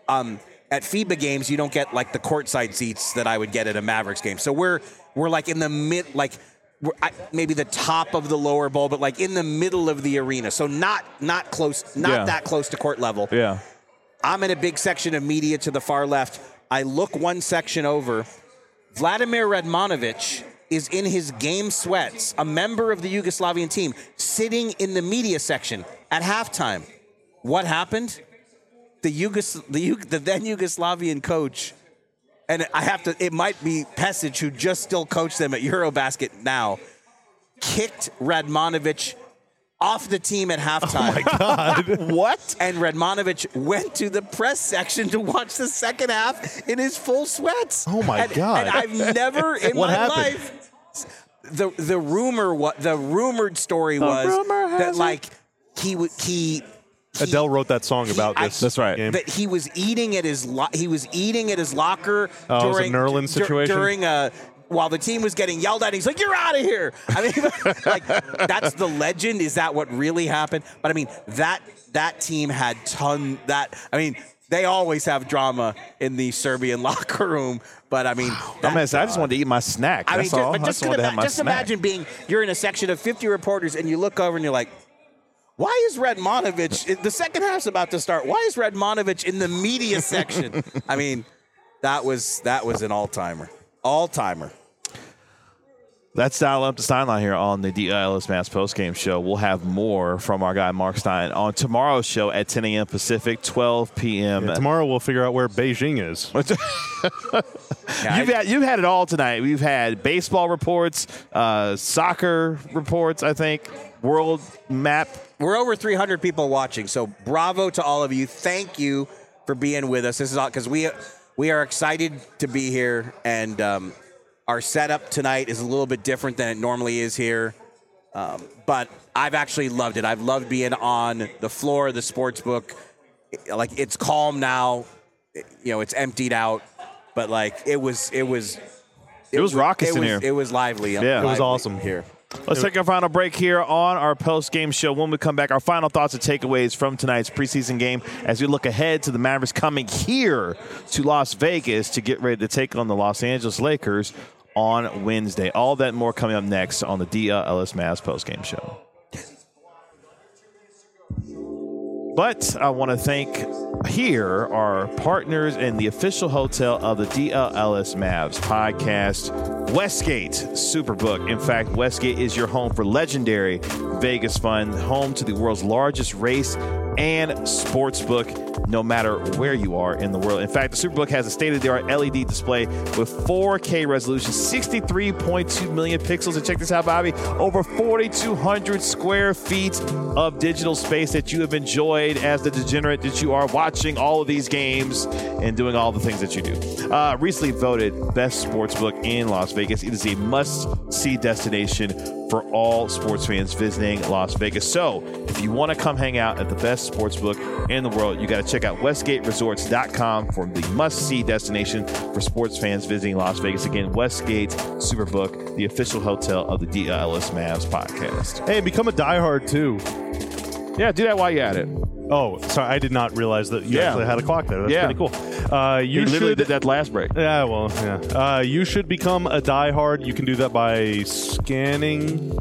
at FIBA games, you don't get like the courtside seats that I would get at a Mavericks game. So we're like in the mid, like maybe the top of the lower bowl, but like in the middle of the arena. So not close, that close to court level. Yeah. I'm in a big section of media to the far left. I look one section over. Vladimir Radmanovic is in his game sweats, a member of the Yugoslavian team, sitting in the media section at halftime. What happened? The then Yugoslavian coach, and it might be Pesic, who just still coached them at Eurobasket now, kicked Radmanovic off the team at halftime. Oh, my God. What? And Radmanovic went to the press section to watch the second half in his full sweats. Oh, my God. And I've never in my life. The rumored story was that like he Adele wrote that song about this. That's right. Game. That he was eating at his locker during it was a Nerlens situation while the team was getting yelled at. He's like, "You're out of here!" I mean, like that's the legend. Is that what really happened? But I mean, that team had they always have drama in the Serbian locker room. But I mean, I just wanted to eat my snack. That's all. Just imagine you're in a section of 50 reporters and you look over and you're like, why is Radmanovic, the second half's about to start, why is Radmanovic in the media section? I mean, that was an all-timer. All-timer. Let's dial up the Steinline here on the DLS Mass postgame show. We'll have more from our guy Mark Stein on tomorrow's show at 10 a.m. Pacific, 12 p.m. Yeah, tomorrow we'll figure out where Beijing is. You've had it all tonight. We've had baseball reports, soccer reports, I think, world map. We're over 300 people watching, so bravo to all of you. Thank you for being with us. This is all because we are excited to be here, and our setup tonight is a little bit different than it normally is here, but I've actually loved it. I've loved being on the floor of the sports book. Like, it's calm now. It's emptied out, but like it was raucous in here. It was lively. Yeah, it was awesome here. Let's take our final break here on our post-game show. When we come back, our final thoughts and takeaways from tonight's preseason game as we look ahead to the Mavericks coming here to Las Vegas to get ready to take on the Los Angeles Lakers on Wednesday. All that and more coming up next on the DLS Mavs post-game show. But I want to thank here our partners in the official hotel of the DLLS Mavs podcast, Westgate Superbook. In fact, Westgate is your home for legendary Vegas fun, home to the world's largest race and sportsbook, no matter where you are in the world. In fact, the Superbook has a state-of-the-art LED display with 4K resolution, 63.2 million pixels. And check this out, Bobby, over 4,200 square feet of digital space that you have enjoyed as the degenerate that you are, watching all of these games and doing all the things that you do. Recently voted best sportsbook in Las Vegas. It is a must-see destination for all sports fans visiting Las Vegas. So if you want to come hang out at the best sportsbook in the world, you got to check out WestgateResorts.com for the must-see destination for sports fans visiting Las Vegas. Again, Westgate Superbook, the official hotel of the DLLS Mavs podcast. Hey, become a diehard too. Yeah, do that while you're at it. Oh, sorry, I did not realize that you actually had a clock there. That's pretty cool. You literally did that last break. Yeah, well, yeah. You should become a diehard. You can do that by scanning.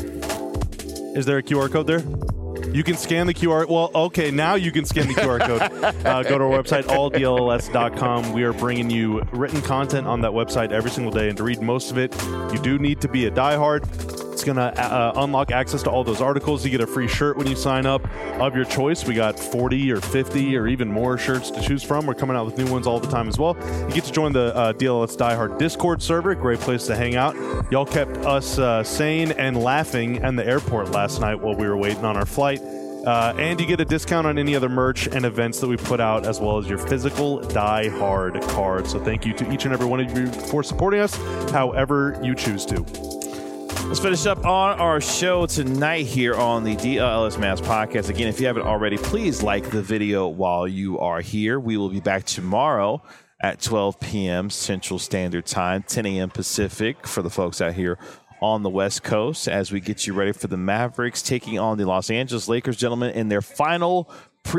Is there a QR code there? You can scan the QR. Well, okay, now you can scan the QR code. Go to our website, alldlls.com. We are bringing you written content on that website every single day, and to read most of it, you do need to be a diehard. It's going to unlock access to all those articles. You get a free shirt when you sign up of your choice. We got 40 or 50 or even more shirts to choose from. We're coming out with new ones all the time as well. You get to join the DLS Diehard Discord server. Great place to hang out. Y'all kept us sane and laughing in the airport last night while we were waiting on our flight. And you get a discount on any other merch and events that we put out, as well as your physical Die Hard card. So thank you to each and every one of you for supporting us, however you choose to. Let's finish up on our show tonight here on the DLLS Mavs podcast. Again, if you haven't already, please like the video while you are here. We will be back tomorrow at 12 p.m. Central Standard Time, 10 a.m. Pacific for the folks out here on the West Coast as we get you ready for the Mavericks taking on the Los Angeles Lakers, gentlemen, in their final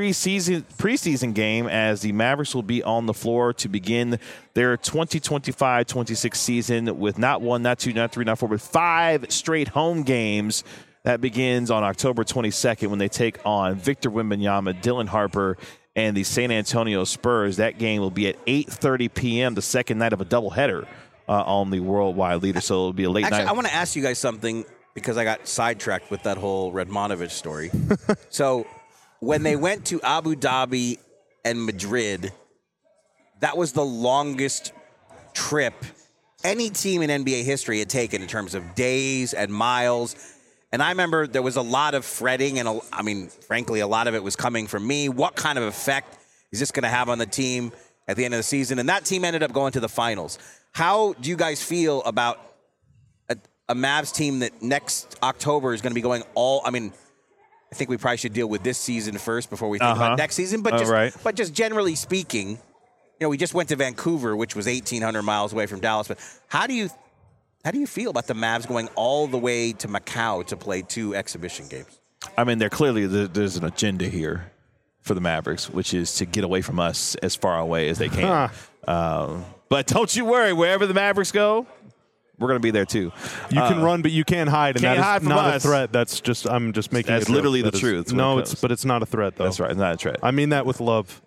preseason game, as the Mavericks will be on the floor to begin their 2025-26 season with not one, not two, not three, not four, but 5 straight home games. That begins on October 22nd when they take on Victor Wembanyama, Dylan Harper, and the San Antonio Spurs. That game will be at 8:30 p.m., the second night of a doubleheader on the worldwide leader. So it'll be a late night. I want to ask you guys something because I got sidetracked with that whole Redmanovich story. So when they went to Abu Dhabi and Madrid, that was the longest trip any team in NBA history had taken in terms of days and miles. And I remember there was a lot of fretting, and frankly, a lot of it was coming from me. What kind of effect is this going to have on the team at the end of the season? And that team ended up going to the finals. How do you guys feel about a Mavs team that next October is going to be going I think we probably should deal with this season first before we think about next season. But just generally speaking, we just went to Vancouver, which was 1,800 miles away from Dallas. But how do you feel about the Mavs going all the way to Macau to play 2 exhibition games? I mean, there's an agenda here for the Mavericks, which is to get away from us as far away as they can. But don't you worry, wherever the Mavericks go, we're going to be there too. You can run, but you can't hide, and that is not us. a threat. That's just I'm just making. That's literally the truth. No, but it's not a threat though. That's right, it's not a threat. I mean that with love.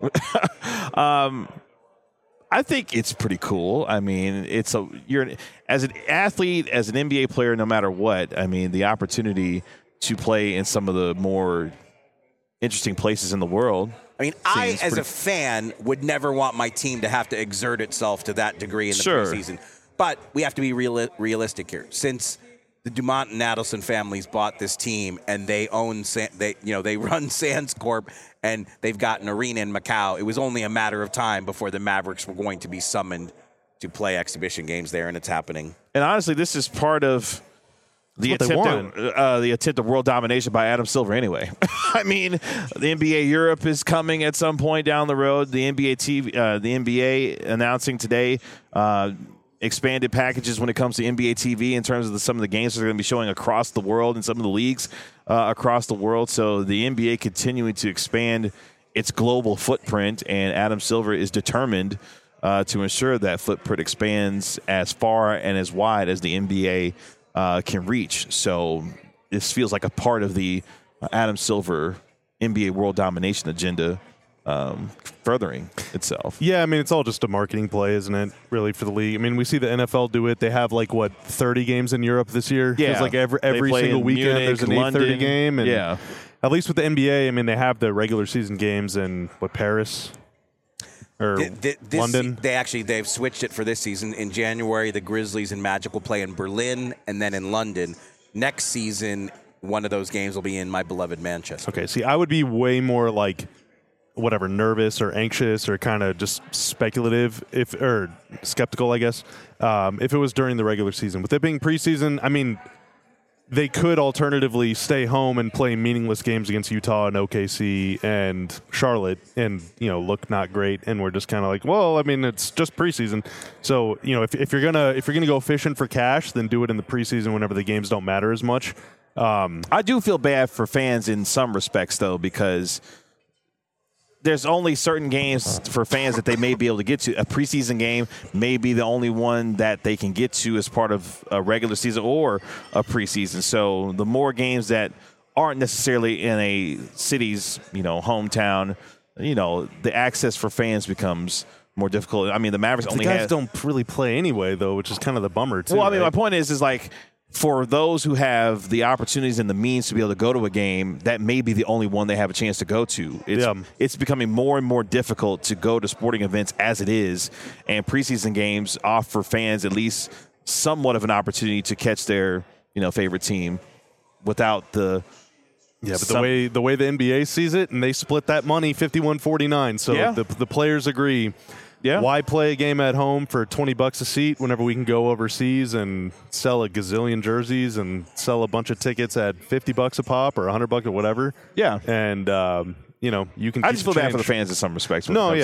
I think it's pretty cool. I mean, you're as an athlete, as an NBA player, no matter what. I mean, the opportunity to play in some of the more interesting places in the world. I mean, as a fan, would never want my team to have to exert itself to that degree in the preseason. But we have to be realistic here. Since the Dumont and Adelson families bought this team and they own, they run Sands Corp and they've got an arena in Macau, it was only a matter of time before the Mavericks were going to be summoned to play exhibition games there, and it's happening. And honestly, this is part of the attempt of world domination by Adam Silver anyway. I mean, the NBA Europe is coming at some point down the road. The NBA announcing today expanded packages when it comes to NBA TV in terms of some of the games that are going to be showing across the world and some of the leagues across the world. So the NBA continuing to expand its global footprint, and Adam Silver is determined to ensure that footprint expands as far and as wide as the NBA can reach. So this feels like a part of the Adam Silver NBA world domination agenda furthering itself. Yeah, I mean, it's all just a marketing play, isn't it, really, for the league? I mean, we see the NFL do it. They have, 30 games in Europe this year? Yeah. It's every single weekend Munich, there's an London. 8:30 game. And yeah. At least with the NBA, I mean, they have the regular season games in, Paris? Or London? They've switched it for this season. In January, the Grizzlies and Magic will play in Berlin and then in London. Next season, one of those games will be in my beloved Manchester. Okay, see, I would be way more nervous or anxious or kind of just speculative or skeptical, I guess, if it was during the regular season. With it being preseason, I mean, they could alternatively stay home and play meaningless games against Utah and OKC and Charlotte and, look not great. And we're just kind of well, I mean, it's just preseason. So, if you're gonna go fishing for cash, then do it in the preseason whenever the games don't matter as much. I do feel bad for fans in some respects, though, because there's only certain games for fans that they may be able to get to. A preseason game may be the only one that they can get to as part of a regular season or a preseason. So the more games that aren't necessarily in a city's, hometown, the access for fans becomes more difficult. I mean, the Mavericks only don't really play anyway, though, which is kind of the bummer, too. Well, I mean, right? my point is for those who have the opportunities and the means to be able to go to a game, that may be the only one they have a chance to go to. It's becoming more and more difficult to go to sporting events as it is, and preseason games offer fans at least somewhat of an opportunity to catch their favorite team without the but the way the NBA sees it, and they split that money 51-49, so the players agree. Yeah. Why play a game at home for $20 a seat whenever we can go overseas and sell a gazillion jerseys and sell a bunch of tickets at $50 a pop or $100 or whatever? Yeah. And you can. I just feel bad for the fans in some respects. I mean,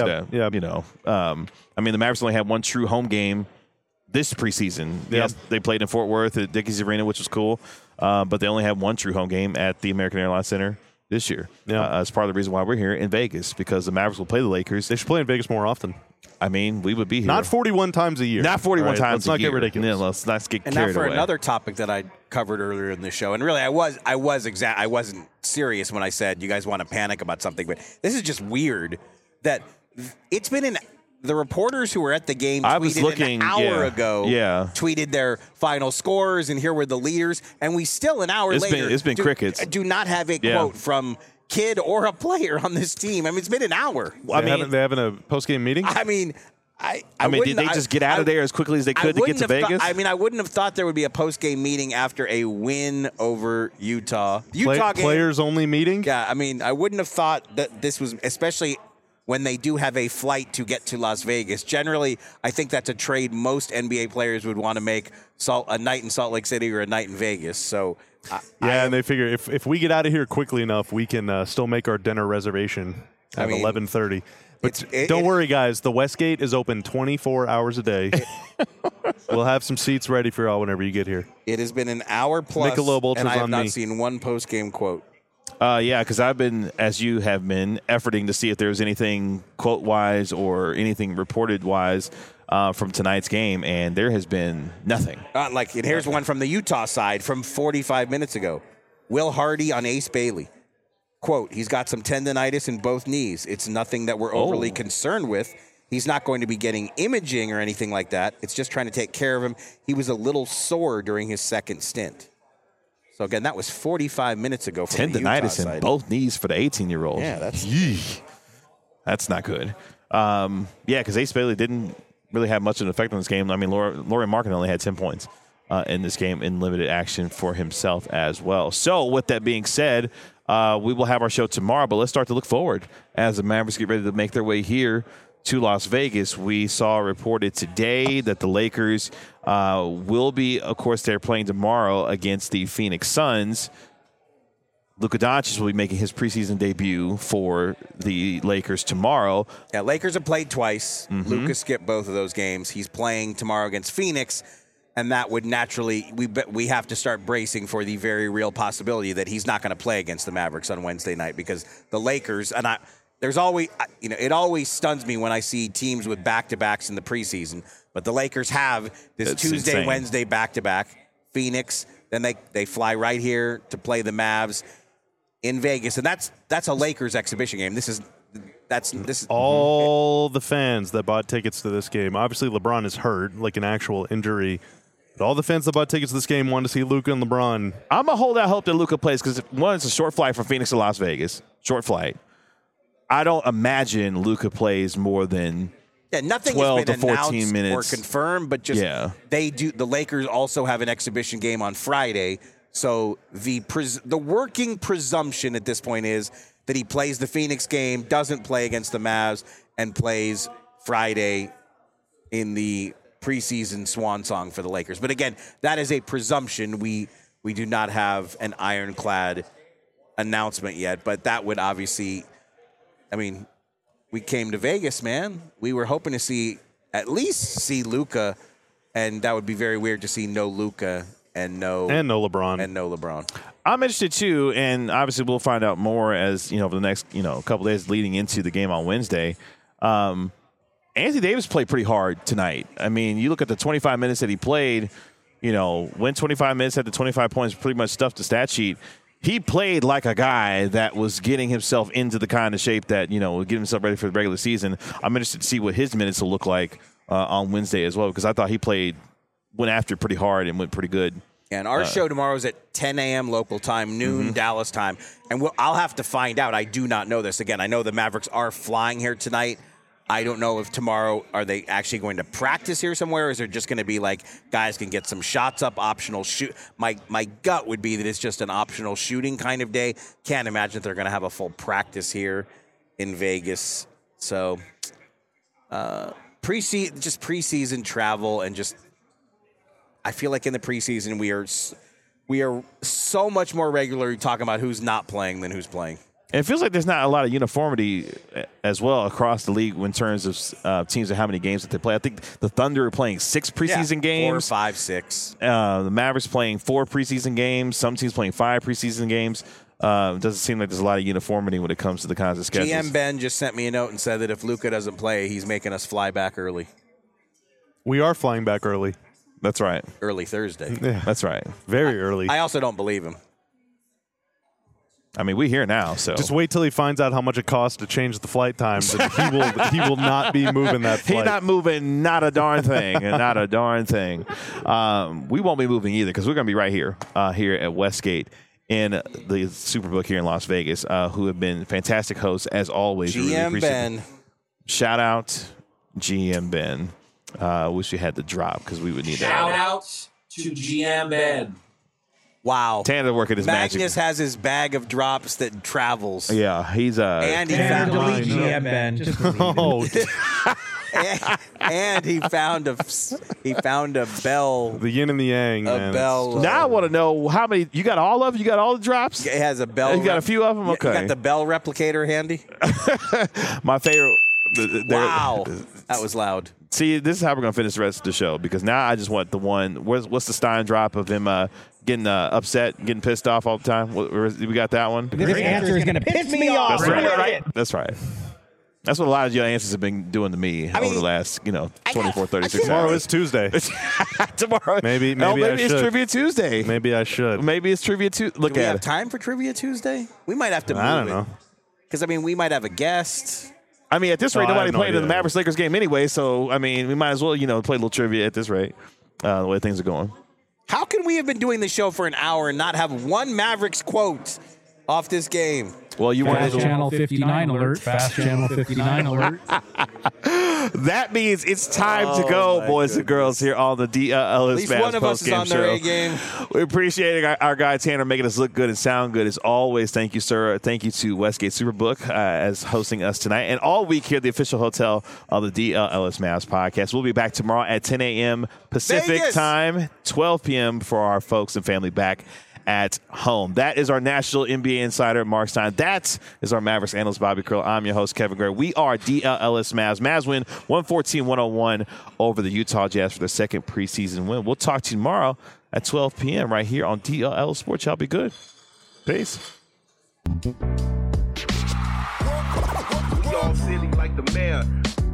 the Mavericks only had one true home game this preseason. Yeah. Yes, they played in Fort Worth at Dickies Arena, which was cool, but they only had one true home game at the American Airlines Center this year. Yeah. That's part of the reason why we're here in Vegas, because the Mavericks will play the Lakers. They should play in Vegas more often. I mean, we would be here. Not 41 times a year. Not 41 right? times Let's not a year. get ridiculous. Yeah, let's not get And carried now for away. another topic that I covered earlier in the show, and really I wasn't serious when I said you guys want to panic about something, but this is just weird that it's been the reporters who were at the game an hour ago tweeted their final scores, and here were the leaders, and we still an hour later it's been crickets. Do not have a quote from kid or a player on this team. I mean, it's been an hour. They having a post-game meeting? I mean, did they just get out of there as quickly as they could to get to Vegas? I wouldn't have thought there would be a post-game meeting after a win over Utah. Players-only meeting? Yeah, I mean, I wouldn't have thought that this was, especially when they do have a flight to get to Las Vegas. Generally, I think that's a trade most NBA players would want to make, a night in Salt Lake City or a night in Vegas. So, and they figure if we get out of here quickly enough, we can still make our dinner reservation at 11:30. But don't worry, guys. The Westgate is open 24 hours a day. We'll have some seats ready for y'all whenever you get here. It has been an hour plus, Michelob Ultra's and I have on not me. seen one post-game quote. Because I've been, as you have been, efforting to see if there was anything quote-wise or anything reported-wise from tonight's game, and there has been nothing. And here's one from the Utah side from 45 minutes ago. Will Hardy on Ace Bailey. Quote, he's got some tendonitis in both knees. It's nothing that we're overly concerned with. He's not going to be getting imaging or anything like that. It's just trying to take care of him. He was a little sore during his second stint. So, again, that was 45 minutes ago from the Utah Tendonitis side. in both knees for the 18-year-old. Yeah, that's not good. Because Ace Bailey didn't really have much of an effect on this game. I mean, Lauri Markkanen only had 10 points in this game in limited action for himself as well. So, with that being said, we will have our show tomorrow, but let's start to look forward as the Mavericks get ready to make their way here to Las Vegas. We saw reported today that the Lakers will be, of course, they're playing tomorrow against the Phoenix Suns. Luka Doncic will be making his preseason debut for the Lakers tomorrow. Yeah, Lakers have played twice. Mm-hmm. Luka skipped both of those games. He's playing tomorrow against Phoenix, and that would naturally we have to start bracing for the very real possibility that he's not going to play against the Mavericks on Wednesday night, because the Lakers there's always, it always stuns me when I see teams with back-to-backs in the preseason, but the Lakers have this Tuesday, insane. Wednesday back-to-back. Phoenix, then they fly right here to play the Mavs in Vegas, and that's a Lakers exhibition game. This is all the fans that bought tickets to this game. Obviously, LeBron is hurt, like an actual injury. But all the fans that bought tickets to this game wanted to see Luka and LeBron. I'm going to hold out hope that Luka plays because, one, it's a short flight from Phoenix to Las Vegas. Short flight. I don't imagine Luka plays more than nothing 12 has been to 14 announced minutes. or confirmed, but just they do. The Lakers also have an exhibition game on Friday, so the working presumption at this point is that he plays the Phoenix game, doesn't play against the Mavs, and plays Friday in the preseason swan song for the Lakers. But again, that is a presumption. We do not have an ironclad announcement yet, but that would obviously, I mean, we came to Vegas, man. We were hoping to at least see Luka, and that would be very weird to see no Luka and no LeBron. I'm interested too, and obviously we'll find out more as over the next couple days leading into the game on Wednesday. Anthony Davis played pretty hard tonight. I mean, you look at the 25 minutes that he played. Went 25 minutes, had the 25 points, pretty much stuffed the stat sheet. He played like a guy that was getting himself into the kind of shape that, would get himself ready for the regular season. I'm interested to see what his minutes will look like on Wednesday as well, because I thought he went after it pretty hard and went pretty good. And our show tomorrow is at 10 a.m. local time, noon Dallas time. And I'll have to find out. I do not know this. Again, I know the Mavericks are flying here tonight. I don't know if tomorrow, are they actually going to practice here somewhere, or is it just going to be like guys can get some shots up, optional shoot? My gut would be that it's just an optional shooting kind of day. Can't imagine that they're going to have a full practice here in Vegas. So preseason travel, and just I feel like in the preseason we are so much more regularly talking about who's not playing than who's playing. And it feels like there's not a lot of uniformity as well across the league in terms of teams and how many games that they play. I think the Thunder are playing 6 preseason games. 4, 5, 6. The Mavericks playing 4 preseason games. Some teams playing 5 preseason games. It doesn't seem like there's a lot of uniformity when it comes to the kinds of schedules. GM Ben just sent me a note and said that if Luka doesn't play, he's making us fly back early. We are flying back early. That's right. Early Thursday. Yeah. That's right. Very early. I also don't believe him. I mean, we're here now, so just wait till he finds out how much it costs to change the flight times, and he will not be moving that flight. He's not moving, not a darn thing, and not a darn thing. We won't be moving either because we're going to be right here, here at Westgate in the Superbook here in Las Vegas, who have been fantastic hosts as always. GM really Ben, shout out GM Ben. Wish we had the drop because we would need that. Shout out to GM Ben. Wow. Tanner working his magic. Magnus has his bag of drops that travels. Yeah, he's and he found delete GM Ben. Just and he found a bell. The yin and the yang. Man. Bell. Now I want to know how many you got. All of you got all the drops. It has a bell. You got a few of them. Okay. You got the bell replicator handy. My favorite. Wow, that was loud. See, this is how we're gonna finish the rest of the show because now I just want the one. What's the Stein drop of him getting upset, getting pissed off all the time? We got that one. This answer is gonna piss me off. That's right. That's right. That's what a lot of your answers have been doing to me over the last, 24, 36 hours. Tomorrow is Tuesday. Tomorrow. Maybe it's Trivia Tuesday. Maybe I should. Maybe it's Trivia Tuesday. Do we have time for Trivia Tuesday? We might have to move it. I don't know. Because, we might have a guest. I mean, at this rate, nobody played in the idea. Mavericks-Lakers game anyway, so, we might as well, play a little trivia at this rate, the way things are going. How can we have been doing the show for an hour and not have one Mavericks quote off this game? Well, you Fast Channel 59 alert. Fast Channel 59 alert. That means it's time to go, boys and girls, here on the DLS At least Mavs one of us is on their A game. We appreciate our guy Tanner making us look good and sound good as always. Thank you, sir. Thank you to Westgate Superbook as hosting us tonight and all week here at the official hotel of the DLS Mavs podcast. We'll be back tomorrow at 10 a.m. Pacific Vegas time, 12 p.m. for our folks and family back at home. That is our national NBA insider, Mark Stein. That is our Mavericks analyst, Bobby Curl. I'm your host, Kevin Gray. We are DLS Mavs. Mavs win 114-101 over the Utah Jazz for their second preseason win. We'll talk to you tomorrow at 12 p.m. right here on DLL Sports. Y'all be good. Peace. We all silly like the mayor.